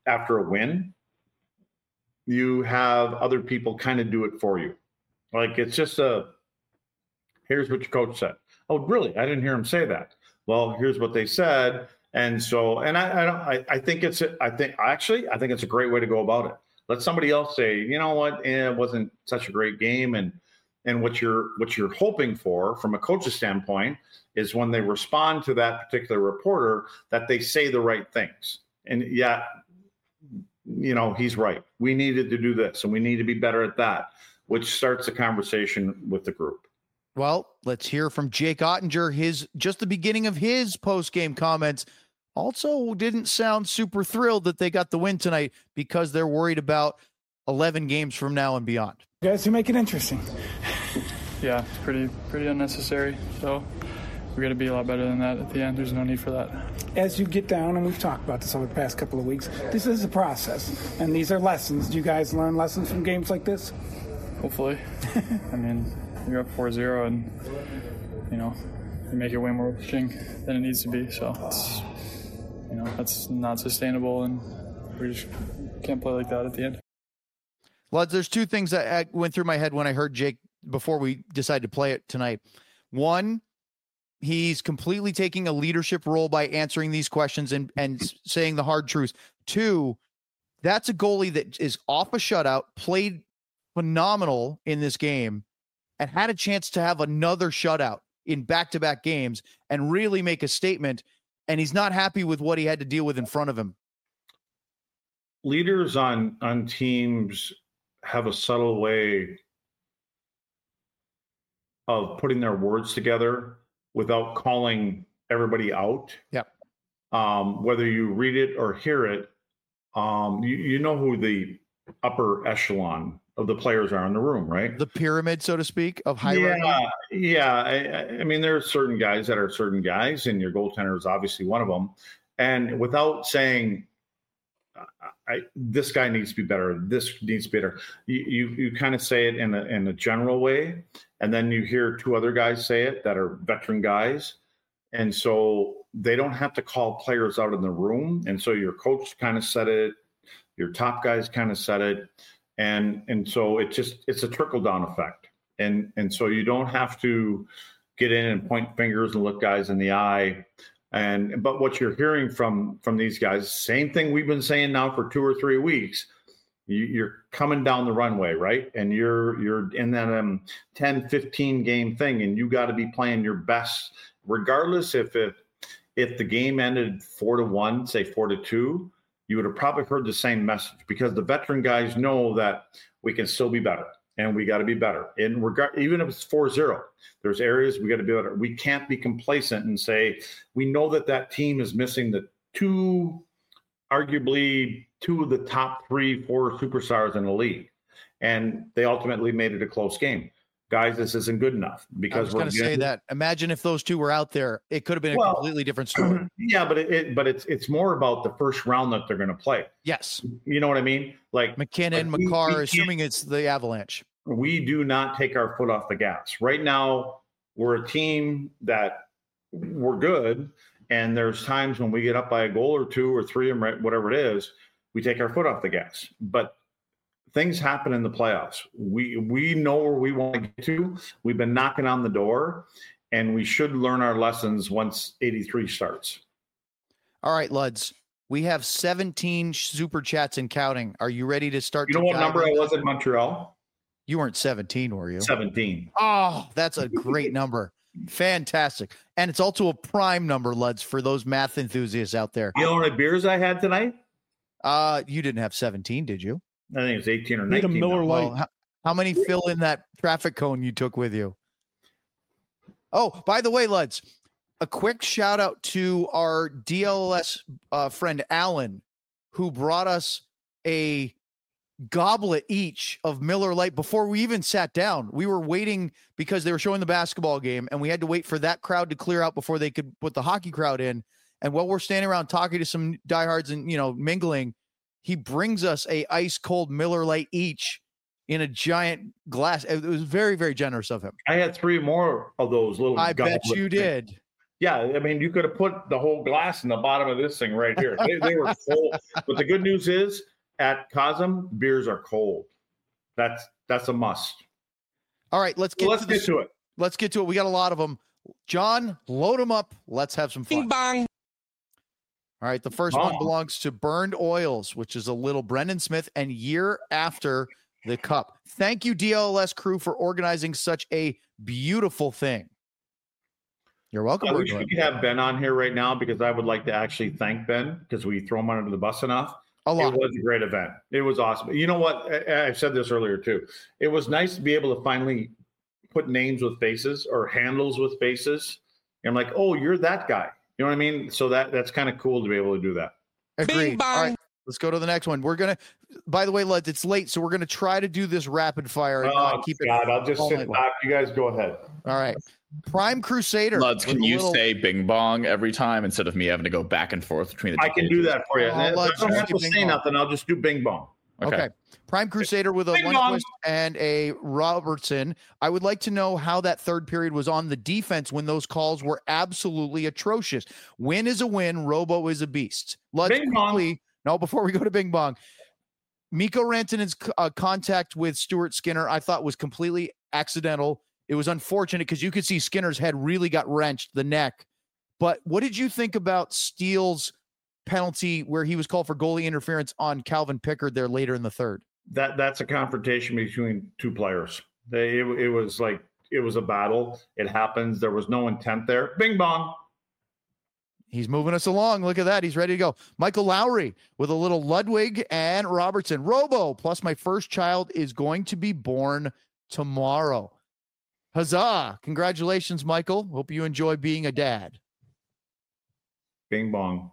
after a win, you have other people kind of do it for you. Like it's just here's what your coach said. Oh, really? I didn't hear him say that. Well, here's what they said. And so, and I think it's a great way to go about it. Let somebody else say, you know what, it wasn't such a great game. And what you're hoping for from a coach's standpoint is when they respond to that particular reporter, that they say the right things. And yeah, you know, he's right. We needed to do this and we need to be better at that, which starts a conversation with the group. Well, let's hear from Jake Oettinger. Just the beginning of his post-game comments also didn't sound super thrilled that they got the win tonight because they're worried about 11 games from now and beyond. You guys, you make it interesting. Yeah, pretty unnecessary. So we got to be a lot better than that at the end. There's no need for that. As you get down, and we've talked about this over the past couple of weeks, this is a process, and these are lessons. Do you guys learn lessons from games like this? Hopefully. I mean, you're up 4-0, and, you know, you make your way more pitching than it needs to be. So, it's, you know, that's not sustainable, and we just can't play like that at the end. Well, there's two things that went through my head when I heard Jake before we decided to play it tonight. One, he's completely taking a leadership role by answering these questions and saying the hard truths. Two, that's a goalie that is off a shutout, played phenomenal in this game, and had a chance to have another shutout in back-to-back games and really make a statement, and he's not happy with what he had to deal with in front of him. Leaders on teams have a subtle way of putting their words together without calling everybody out. Yep. Whether you read it or hear it, you know who the upper echelon of the players are in the room, right? The pyramid, so to speak, of high ranking. Yeah. I mean, there are certain guys that are certain guys, and your goaltender is obviously one of them. And without saying, this guy needs to be better, this needs to be better, you kind of say it in a general way, and then you hear two other guys say it that are veteran guys, and so they don't have to call players out in the room. And so your coach kind of said it, your top guys kind of said it. And so it's a trickle down effect. And so you don't have to get in and point fingers and look guys in the eye. But what you're hearing from these guys, same thing we've been saying now for 2 or 3 weeks, you're coming down the runway, right? And you're in that 10, 15 game thing, and you got to be playing your best, regardless if the game ended 4-1, say 4-2, you would have probably heard the same message, because the veteran guys know that we can still be better and we got to be better. Even if it's 4-0, there's areas we got to be better. We can't be complacent and say, we know that team is missing arguably two of the top 3-4 superstars in the league. And they ultimately made it a close game. Guys, this isn't good enough, because I was going to say that. Imagine if those two were out there, it could have been a completely different story. Yeah, but it's more about the first round that they're going to play. Yes, you know what I mean. Like McKinnon, Makar, assuming it's the Avalanche. We do not take our foot off the gas. Right now, we're a team that we're good, and there's times when we get up by a goal or 2 or 3, or whatever it is, we take our foot off the gas. But things happen in the playoffs. We know where we want to get to. We've been knocking on the door, and we should learn our lessons once 83 starts. All right, Luds. We have 17 super chats and counting. Are you ready to start? You know what number I was in Montreal? You weren't 17, were you? 17. Oh, that's a great number. Fantastic. And it's also a prime number, Luds, for those math enthusiasts out there. You know how many beers I had tonight? You didn't have 17, did you? I think it was 18 or 19. A Miller Lite. Well, how many fill in that traffic cone you took with you? Oh, by the way, Luds, a quick shout out to our DLS friend Alan, who brought us a goblet each of Miller Lite before we even sat down. We were waiting because they were showing the basketball game, and we had to wait for that crowd to clear out before they could put the hockey crowd in. And while we're standing around talking to some diehards and, mingling, he brings us a ice cold Miller Lite each in a giant glass. It was very, very generous of him. I had 3 more of those little. I bet you did. Yeah, I mean, you could have put the whole glass in the bottom of this thing right here. They were cold. But the good news is, at Cosm, beers are cold. That's a must. All right, let's get to it. Let's get to it. We got a lot of them. John, load them up. Let's have some fun. Bing bong. All right, the first one belongs to Burned Oils, which is a little Brendan Smith and Year After the Cup. Thank you, DLS crew, for organizing such a beautiful thing. You're welcome. We should have Ben on here right now because I would like to actually thank Ben because we throw him under the bus enough. It was a great event. It was awesome. You know what? I said this earlier too. It was nice to be able to finally put names with faces or handles with faces. And I'm like, oh, you're that guy. You know what I mean? So that's kind of cool to be able to do that. Agreed. All right, let's go to the next one. We're going to, by the way, it's late, so we're going to try to do this rapid fire. And keep it. I'll just sit back. You guys go ahead. All right. Prime Crusader. Luds, can you say Bing Bong every time instead of me having to go back and forth between the two? I can do that for you. I don't have to say nothing. I'll just do Bing Bong. Okay. Prime Crusader with a Lundqvist and a Robertson. I would like to know how that third period was on the defense when those calls were absolutely atrocious. Win is a win. Robo is a beast. Luds, quickly. No, before we go to Bing Bong. Mikko Rantanen's contact with Stuart Skinner, I thought was completely accidental. It was unfortunate because you could see Skinner's head really got wrenched, the neck. But what did you think about Steele's penalty where he was called for goalie interference on Calvin Pickard there later in the third? That's a confrontation between two players. It was a battle. It happens. There was no intent there. Bing bong. He's moving us along. Look at that. He's ready to go. Michael Lowry with a little Ludwig and Robertson. Robo, plus my first child is going to be born tomorrow. Huzzah. Congratulations, Michael. Hope you enjoy being a dad. Bing bong.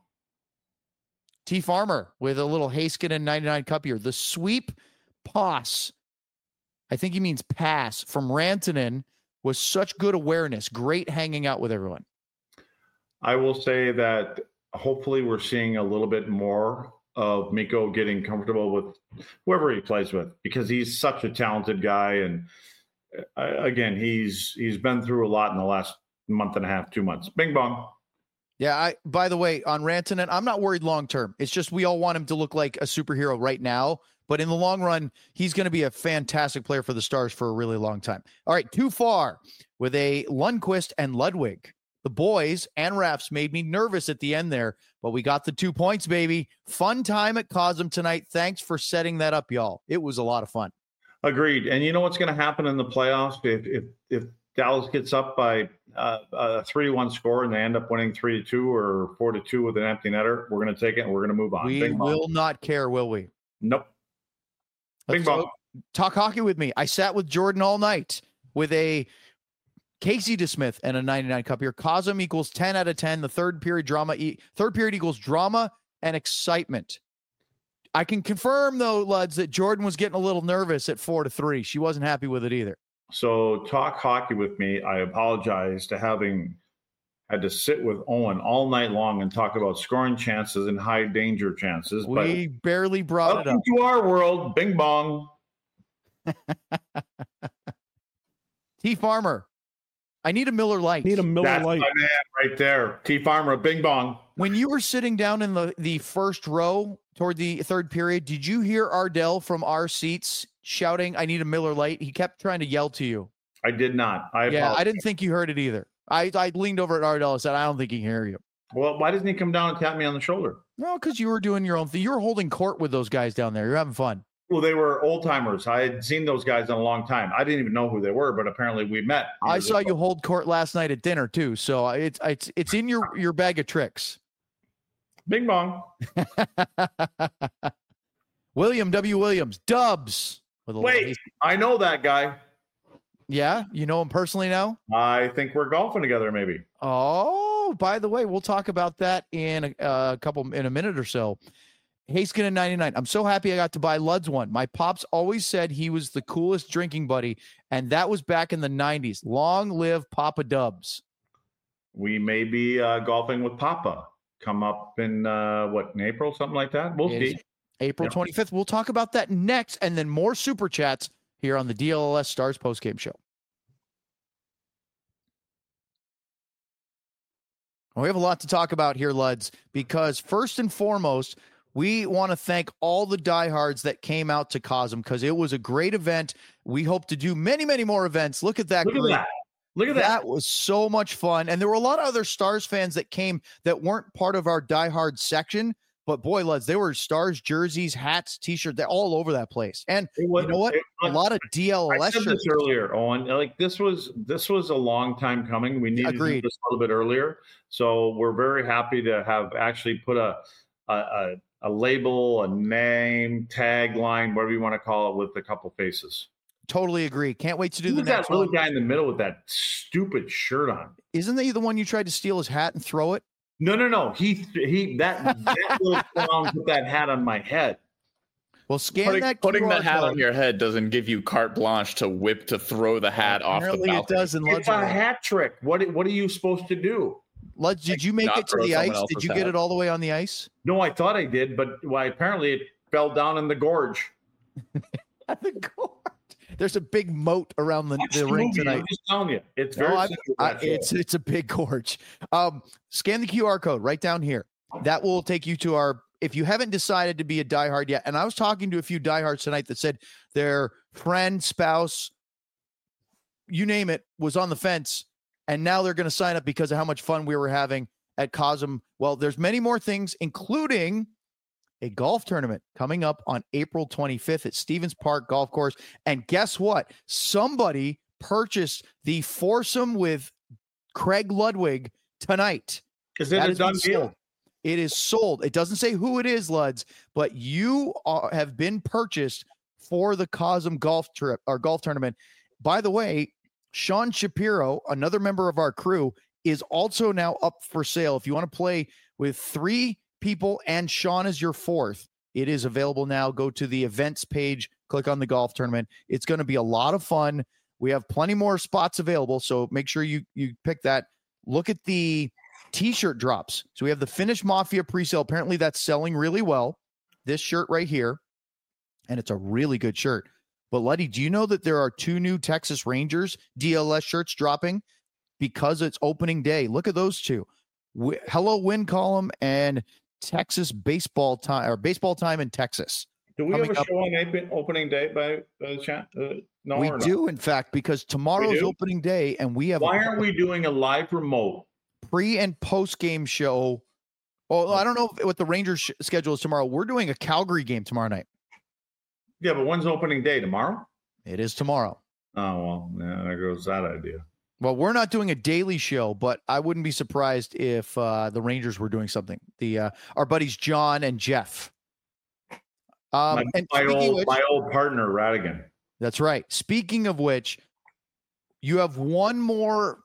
T Farmer with a little Heiskanen 99 cup here. The sweep pass, I think he means pass, from Rantanen was such good awareness. Great hanging out with everyone. I will say that hopefully we're seeing a little bit more of Mikko getting comfortable with whoever he plays with because he's such a talented guy. And again, he's been through a lot in the last month and a half, 2 months. Bing bong. Yeah, by the way, on Rantanen, I'm not worried long-term. It's just we all want him to look like a superhero right now. But in the long run, he's going to be a fantastic player for the Stars for a really long time. All right, too far with a Lundqvist and Ludwig. The boys and refs made me nervous at the end there, but we got the 2 points, baby. Fun time at Cosm tonight. Thanks for setting that up, y'all. It was a lot of fun. Agreed. And you know what's going to happen in the playoffs if Dallas gets up by a 3-1 score and they end up winning 3-2 or 4-2 with an empty netter, we're going to take it and we're going to move on. We will not care, will we? Nope. Bing bong. Talk hockey with me. I sat with Jordan all night with a Casey DeSmith and a 99 cup here. Cosm equals 10 out of 10. The third period equals drama and excitement. I can confirm though, Luds, that Jordan was getting a little nervous at 4-3. She wasn't happy with it either. So talk hockey with me. I apologize to having had to sit with Owen all night long and talk about scoring chances and high danger chances. We barely brought it up. Welcome to our world. Bing bong. T Farmer. I need a Miller Lite. That's my man right there. T Farmer, bing bong. When you were sitting down in the first row toward the third period, did you hear Ardell from our seats shouting, I need a Miller Lite? He kept trying to yell to you. I did not. I didn't think you heard it either. I leaned over at Ardell and said, I don't think he can hear you. Well, why doesn't he come down and tap me on the shoulder? No, because you were doing your own thing. You were holding court with those guys down there. You're having fun. Well, they were old timers. I had seen those guys in a long time. I didn't even know who they were, but apparently we met. I saw you hold court last night at dinner too. So it's in your bag of tricks. Bing bong. William W. Williams, Dubs. Wait, I know that guy. Yeah, you know him personally now? I think we're golfing together, maybe. Oh, by the way, we'll talk about that in a minute or so. Heiskanen 99. I'm so happy I got to buy Luds one. My pops always said he was the coolest drinking buddy, and that was back in the 90s. Long live Papa Dubs. We may be golfing with Papa. Come up in in April, something like that. We'll see. April 25th. We'll talk about that next, and then more super chats here on the DLS Stars postgame show. We have a lot to talk about here, Luds, because first and foremost, we want to thank all the diehards that came out to COSM because it was a great event. We hope to do many, many more events. Look at that. Look at that. Look at that. That was so much fun. And there were a lot of other Stars fans that came that weren't part of our diehard section. But boy, Luds, there were Stars jerseys, hats, T-shirts, they're all over that place. And you know what? A lot of DLS I said shirts. this earlier, Owen. Like this was a long time coming. We needed to do this a little bit earlier. So we're very happy to have actually put a label, a name, tagline, whatever you want to call it, with a couple faces. Totally agree. Can't wait to do the next one. That little guy in the middle with that stupid shirt on. Isn't he the one you tried to steal his hat and throw it? No. That little clown put that hat on my head. Well, putting the hat on your head doesn't give you carte blanche to throw the hat off the balcony. It does. It's a hat trick. What are you supposed to do? Luds, did you make it to the ice? Did you get it all the way on the ice? No, I thought I did, but apparently it fell down in the gorge. The gorge. There's a big moat around the ring tonight. I'm just telling you, it's very it's a big gorge. Scan the QR code right down here. That will take you to our. If you haven't decided to be a diehard yet, and I was talking to a few diehards tonight that said their friend, spouse, you name it, was on the fence, and now they're going to sign up because of how much fun we were having at COSM. Well, there's many more things, including a golf tournament coming up on April 25th at Stevens Park Golf Course. And guess what? Somebody purchased the foursome with Craig Ludwig tonight. Is it a done deal? It is sold. It doesn't say who it is, Luds, but you have been purchased for the COSM golf trip or golf tournament. By the way, Sean Shapiro, another member of our crew, is also now up for sale. If you want to play with 3 people and Sean is your 4th, it is available now. Go to the events page, click on the golf tournament. It's going to be a lot of fun. We have plenty more spots available, so make sure you pick that. Look at the T-shirt drops. So we have the Finnish Mafia presale. Apparently that's selling really well. This shirt right here, and it's a really good shirt. But Luddy, do you know that there are 2 new Texas Rangers DLS shirts dropping because it's opening day? Look at those 2. Hello Win Column and Texas baseball time, or baseball time in Texas. Do we have a show on opening day by chance? No, we do, in fact, because tomorrow's opening day, and we have. Why aren't we doing a live remote pre and post game show? Well, I don't know what the Rangers schedule is tomorrow. We're doing a Calgary game tomorrow night. Yeah, but when's opening day? Tomorrow? It is tomorrow. Oh well, yeah, there goes that idea. Well, we're not doing a daily show, but I wouldn't be surprised if the Rangers were doing something. Our buddies John and Jeff. My old partner, Radigan. That's right. Speaking of which, you have one more,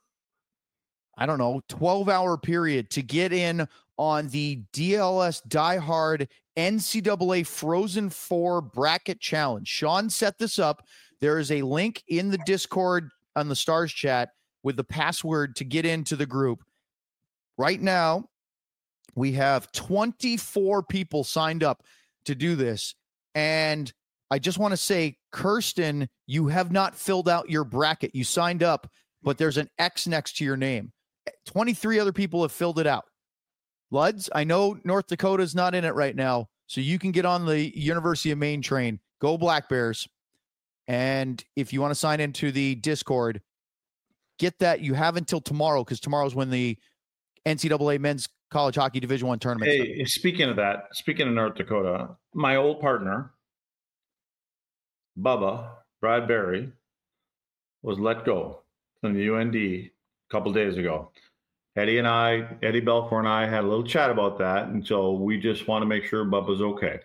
12-hour period to get in on the DLS Diehard NCAA Frozen 4 Bracket Challenge. Sean set this up. There is a link in the Discord on the Stars chat with the password to get into the group. Right now, we have 24 people signed up to do this. And I just want to say, Kirsten, you have not filled out your bracket. You signed up, but there's an X next to your name. 23 other people have filled it out. Luds, I know North Dakota's not in it right now, so you can get on the University of Maine train. Go Black Bears. And if you want to sign into the Discord, get that. You have until tomorrow, because tomorrow's when the NCAA Men's College Hockey Division I tournament. Hey, speaking of North Dakota, my old partner, Bubba Bradbury, was let go from the UND a couple days ago. Eddie Belfour and I had a little chat about that, and so we just want to make sure Bubba's okay.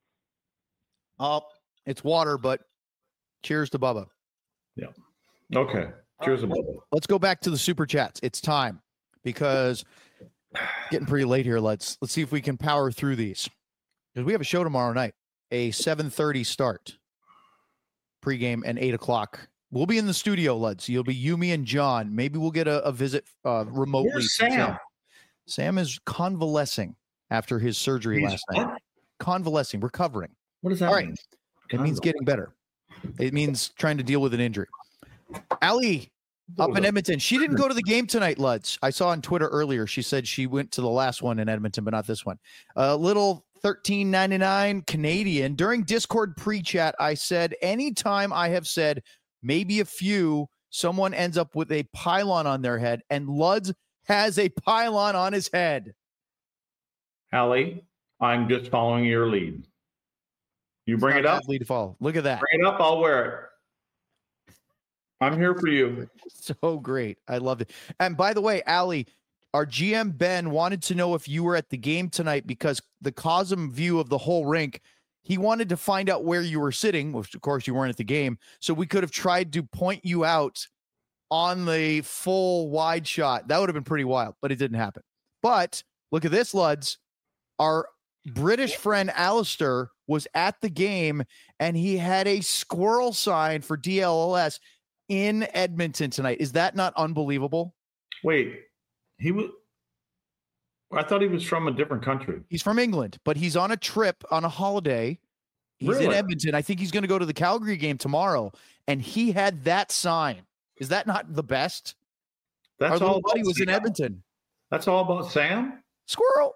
It's water, but cheers to Bubba. Yeah. Okay. Cheers to Bubba. Let's go back to the super chats. It's time, because getting pretty late here. Let's see if we can power through these, because we have a show tomorrow night, a 7:30 start pregame and 8:00. We'll be in the studio, Luds. You'll be you, me, and John. Maybe we'll get a visit remotely. Where's Sam? Sam is convalescing after his surgery last night. Convalescing, recovering. What does that mean? It means getting better. It means trying to deal with an injury. Ali, Up in Edmonton. She didn't go to the game tonight, Luds. I saw on Twitter earlier. She said she went to the last one in Edmonton, but not this one. A little $13.99 Canadian. During Discord pre-chat, I said, anytime I have said maybe a few, someone ends up with a pylon on their head, and Luds has a pylon on his head. Allie, I'm just following your lead. You bring it up. Lead to follow. Look at that. Bring it up. I'll wear it. I'm here for you. So great. I love it. And by the way, Allie, our GM Ben wanted to know if you were at the game tonight because the Cosm view of the whole rink, he wanted to find out where you were sitting, which of course you weren't at the game. So we could have tried to point you out on the full wide shot. That would have been pretty wild, but it didn't happen. But look at this, Luds. Our British friend Alistair was at the game and he had a squirrel sign for DLLS in Edmonton tonight. Is that not unbelievable? Wait, I thought he was from a different country. He's from England, but he's on a trip on a holiday. He's in Edmonton. I think he's going to go to the Calgary game tomorrow. And he had that sign. Is that not the best? That's Our little all buddy was Sam. in Edmonton. That's all about Sam? Squirrel.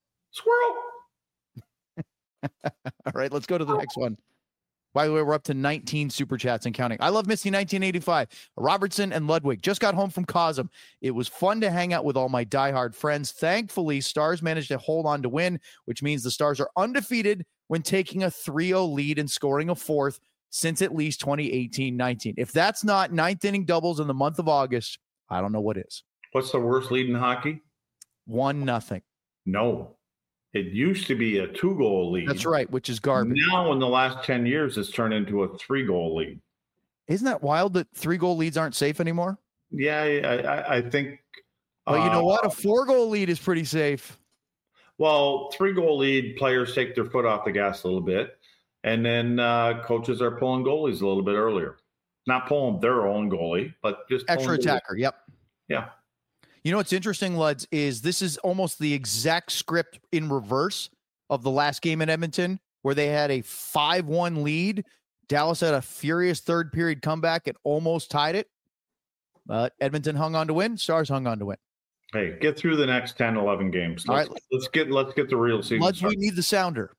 All right, let's go to the next one. By the way, we're up to 19 super chats and counting. I love Misty 1985. Robertson and Ludwig just got home from Cosm. It was fun to hang out with all my diehard friends. Thankfully, Stars managed to hold on to win, which means the Stars are undefeated when taking a 3-0 lead and scoring a fourth since at least 2018-19. If that's not ninth inning doubles in the month of August, I don't know what is. What's the worst lead in hockey? 1-0. No. It used to be a 2-goal lead. That's right, which is garbage. Now, in the last 10 years, it's turned into a 3-goal lead. Isn't that wild that 3-goal leads aren't safe anymore? Yeah, I think. Well, you know what? A 4-goal lead is pretty safe. Well, 3-goal lead, players take their foot off the gas a little bit, and then coaches are pulling goalies a little bit earlier. Not pulling their own goalie, but just extra attacker. Yep. Yeah. You know what's interesting, Luds, is this is almost the exact script in reverse of the last game in Edmonton, where they had a 5-1 lead. Dallas had a furious third period comeback. It almost tied it. But Edmonton hung on to win. Stars hung on to win. Hey, get through the next 10, 11 games. Let's get the real season. Luds, we need the sounder.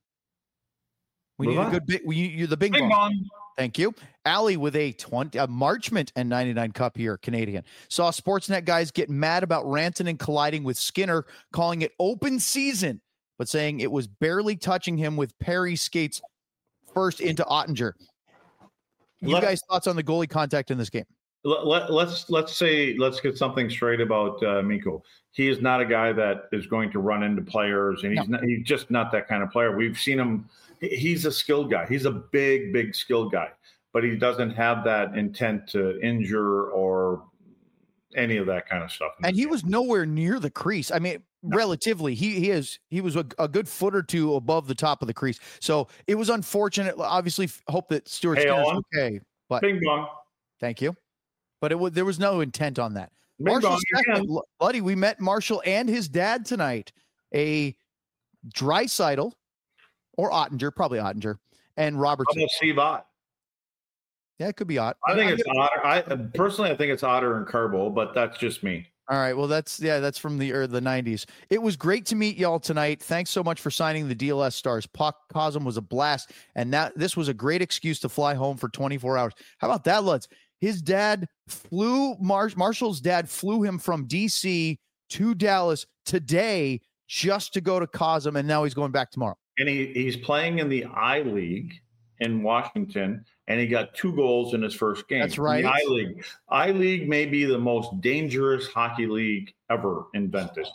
We need a good bit. You're the bing bong. Thank you. Allie with a Marchment and 99 Cup here, Canadian. Saw Sportsnet guys get mad about Rantanen colliding with Skinner, calling it open season, but saying it was barely touching him with Perry skates first into Ottinger. You guys' thoughts on the goalie contact in this game? Let's get something straight about Mikko. He is not a guy that is going to run into players, and he's just not that kind of player. We've seen him. He's a skilled guy. He's a big skilled guy, but he doesn't have that intent to injure or any of that kind of stuff. And he was nowhere near the crease. I mean, relatively, he was a good foot or two above the top of the crease. So it was unfortunate. Obviously, hope that Stuart Skinner's okay. But bing bong. Thank you. But there was no intent on that. Marshall, buddy, we met Marshall and his dad tonight. A Draisaitl. Or Ottinger, probably Ottinger, and Robertson. How about Steve Ott? Yeah, it could be Ott. I think it's Otter. I think it's Otter and Carbo, but that's just me. All right. Well, that's from the 90s. It was great to meet y'all tonight. Thanks so much for signing the DLS Stars. Puck Cosm was a blast, and this was a great excuse to fly home for 24 hours. How about that, Luds? His dad flew Marshall's dad flew him from DC to Dallas today just to go to Cosm, and now he's going back tomorrow. And he's playing in the I-League in Washington, and he got 2 goals in his first game. That's right. The I-League. I-League may be the most dangerous hockey league ever invented.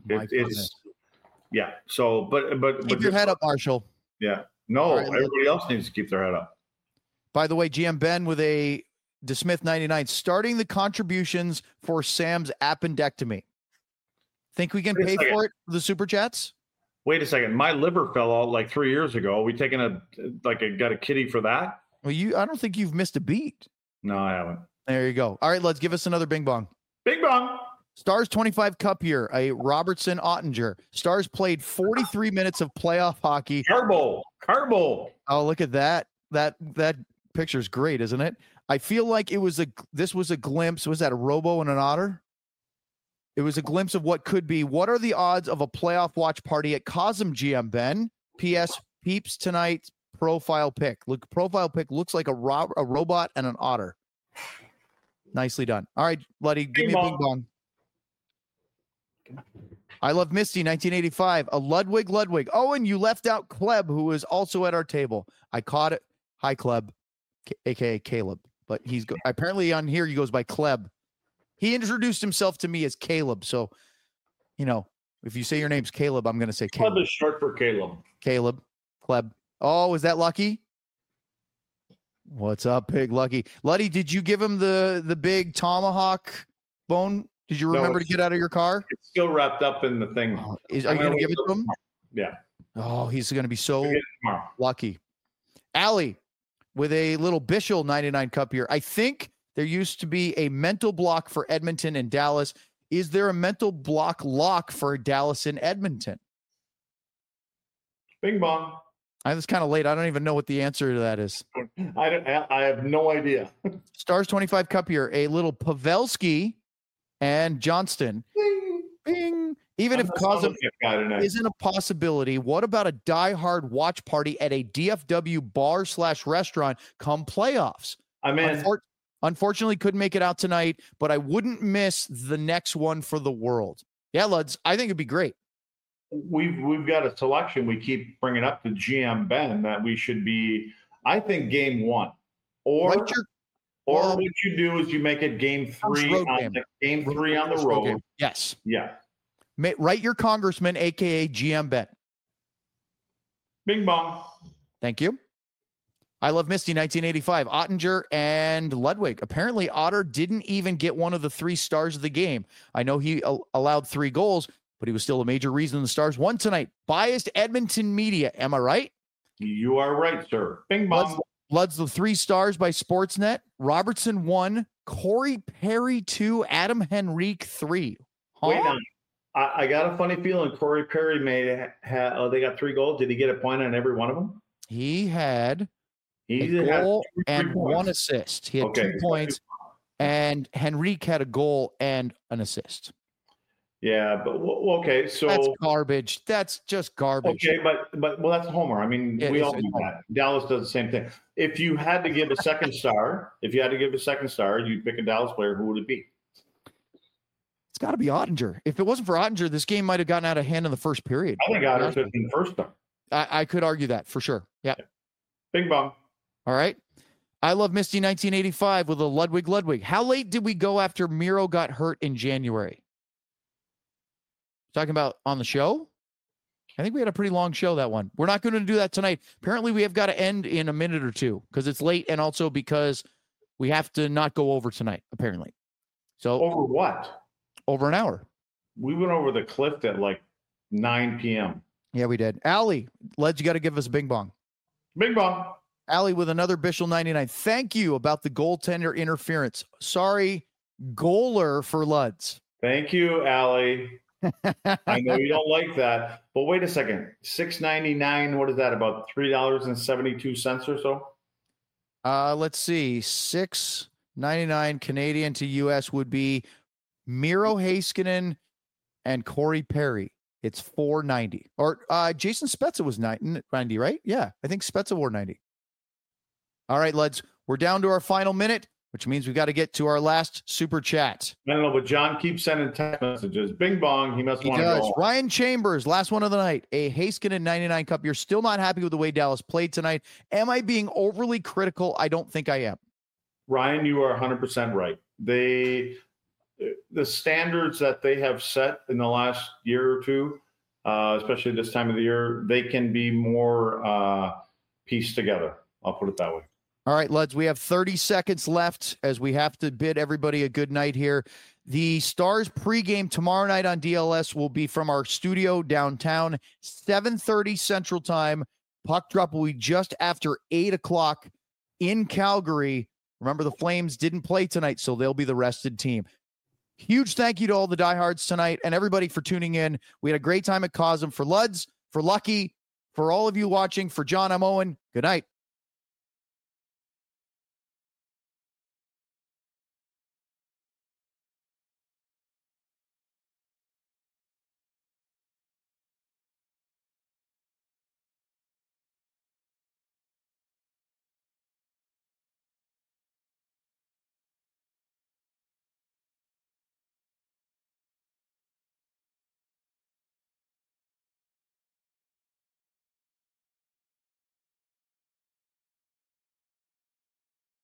Yeah. So, but keep your head up, Marshall. Yeah. No, everybody else needs to keep their head up. By the way, GM Ben with a DeSmith 99 starting the contributions for Sam's appendectomy. Think we can pay for it for the super chats? Wait a second. My liver fell out like 3 years ago. We taking got a kitty for that? Well, I don't think you've missed a beat. No, I haven't. There you go. All right, let's give us another bing bong. Bing bong. Stars 25 Cup here, a Robertson Ottinger. Stars played 43 minutes of playoff hockey. Carbo. Oh, look at that. That picture's great, isn't it? I feel like this was a glimpse. Was that a Robo and an Otter? It was a glimpse of what could be. What are the odds of a playoff watch party at Cosm GM, Ben? P.S. Peeps tonight profile pic. Look, profile pic looks like a robot and an otter. Nicely done. All right, Luddy, give me a bing bong. I love Misty, 1985. A Ludwig. Oh, and you left out Kleb, who was also at our table. I caught it. Hi, Kleb, a.k.a. Caleb. But apparently on here he goes by Kleb. He introduced himself to me as Caleb. So, if you say your name's Caleb, I'm going to say Caleb. Kleb is short for Caleb. Caleb. Kleb. Oh, is that Lucky? What's up, Pig Lucky? Luddy, did you give him the big tomahawk bone? Did you remember to get out of your car? It's still wrapped up in the thing. Are you going to give it to him? Yeah. Oh, he's going to be so lucky. Allie, with a little Bishel 99 cup here. I think there used to be a mental block for Edmonton and Dallas. Is there a mental block lock for Dallas and Edmonton? Bing bong. It's kind of late. I don't even know what the answer to that is. I have no idea. Stars 25 cup here. A little Pavelski and Johnston. Bing. Bing. Even if Cosm isn't a possibility, what about a diehard watch party at a DFW bar/restaurant come playoffs? Unfortunately, couldn't make it out tonight, but I wouldn't miss the next one for the world. Yeah, Luds, I think it'd be great. We've got a selection we keep bringing up to GM Ben that we should be, I think, game one. Or what you do is you make it game three on the road. Game. Yes. Yeah. Write your congressman, a.k.a. GM Ben. Bing bong. Thank you. I love Misty, 1985. Ottinger and Ludwig. Apparently, Otter didn't even get one of the 3 stars of the game. I know he allowed 3 goals, but he was still a major reason the Stars won tonight. Biased Edmonton media. Am I right? You are right, sir. Bing bong. Lud's the 3 stars by Sportsnet. Robertson 1, Corey Perry 2, Adam Henrique 3. Huh? Wait on. I got a funny feeling Corey Perry they got 3 goals. Did he get a point on every one of them? He had a goal and 1 assist. He had 2 points, and Henrique had a goal and an assist. Yeah, but okay, so that's garbage. That's just garbage. Okay, but that's a homer. I mean, we all do that. Dallas does the same thing. If you had to give a second star, you'd pick a Dallas player. Who would it be? It's got to be Ottinger. If it wasn't for Ottinger, this game might have gotten out of hand in the first period. I think Ottinger should have been the first star. I could argue that for sure. Yeah. Bing bong. All right. I love Misty 1985 with a Ludwig. How late did we go after Miro got hurt in January? Talking about on the show? I think we had a pretty long show, that one. We're not going to do that tonight. Apparently, we have got to end in a minute or two because it's late and also because we have to not go over tonight, apparently. So over what? Over an hour. We went over the cliff at like 9 p.m. Yeah, we did. Allie, you got to give us a bing bong. Bing bong. Allie with another Bishel 99. Thank you about the goaltender interference. Sorry, goaler for Luds. Thank you, Allie. I know you don't like that, but wait a second. $6.99. What is that? About $3.72 or so? Let's see. $6.99 Canadian to US would be Miro Heiskanen and Corey Perry. It's $4.90. Or Jason Spezza was $90, right? Yeah, I think Spezza wore $90. All right, Luds, we're down to our final minute, which means we've got to get to our last super chat. I don't know, but John keeps sending text messages. Bing bong, he must want to go. Ryan Chambers, last one of the night, a Heiskanen 99 cup. You're still not happy with the way Dallas played tonight. Am I being overly critical? I don't think I am. Ryan, you are 100% right. The standards that they have set in the last year or two, especially this time of the year, they can be more pieced together. I'll put it that way. All right, Luds, we have 30 seconds left as we have to bid everybody a good night here. The Stars pregame tomorrow night on DLS will be from our studio downtown, 7:30 Central Time. Puck drop will be just after 8 o'clock in Calgary. Remember, the Flames didn't play tonight, so they'll be the rested team. Huge thank you to all the diehards tonight and everybody for tuning in. We had a great time at Cosm. For Luds, for Lucky, for all of you watching, for John, I'm Owen. Good night.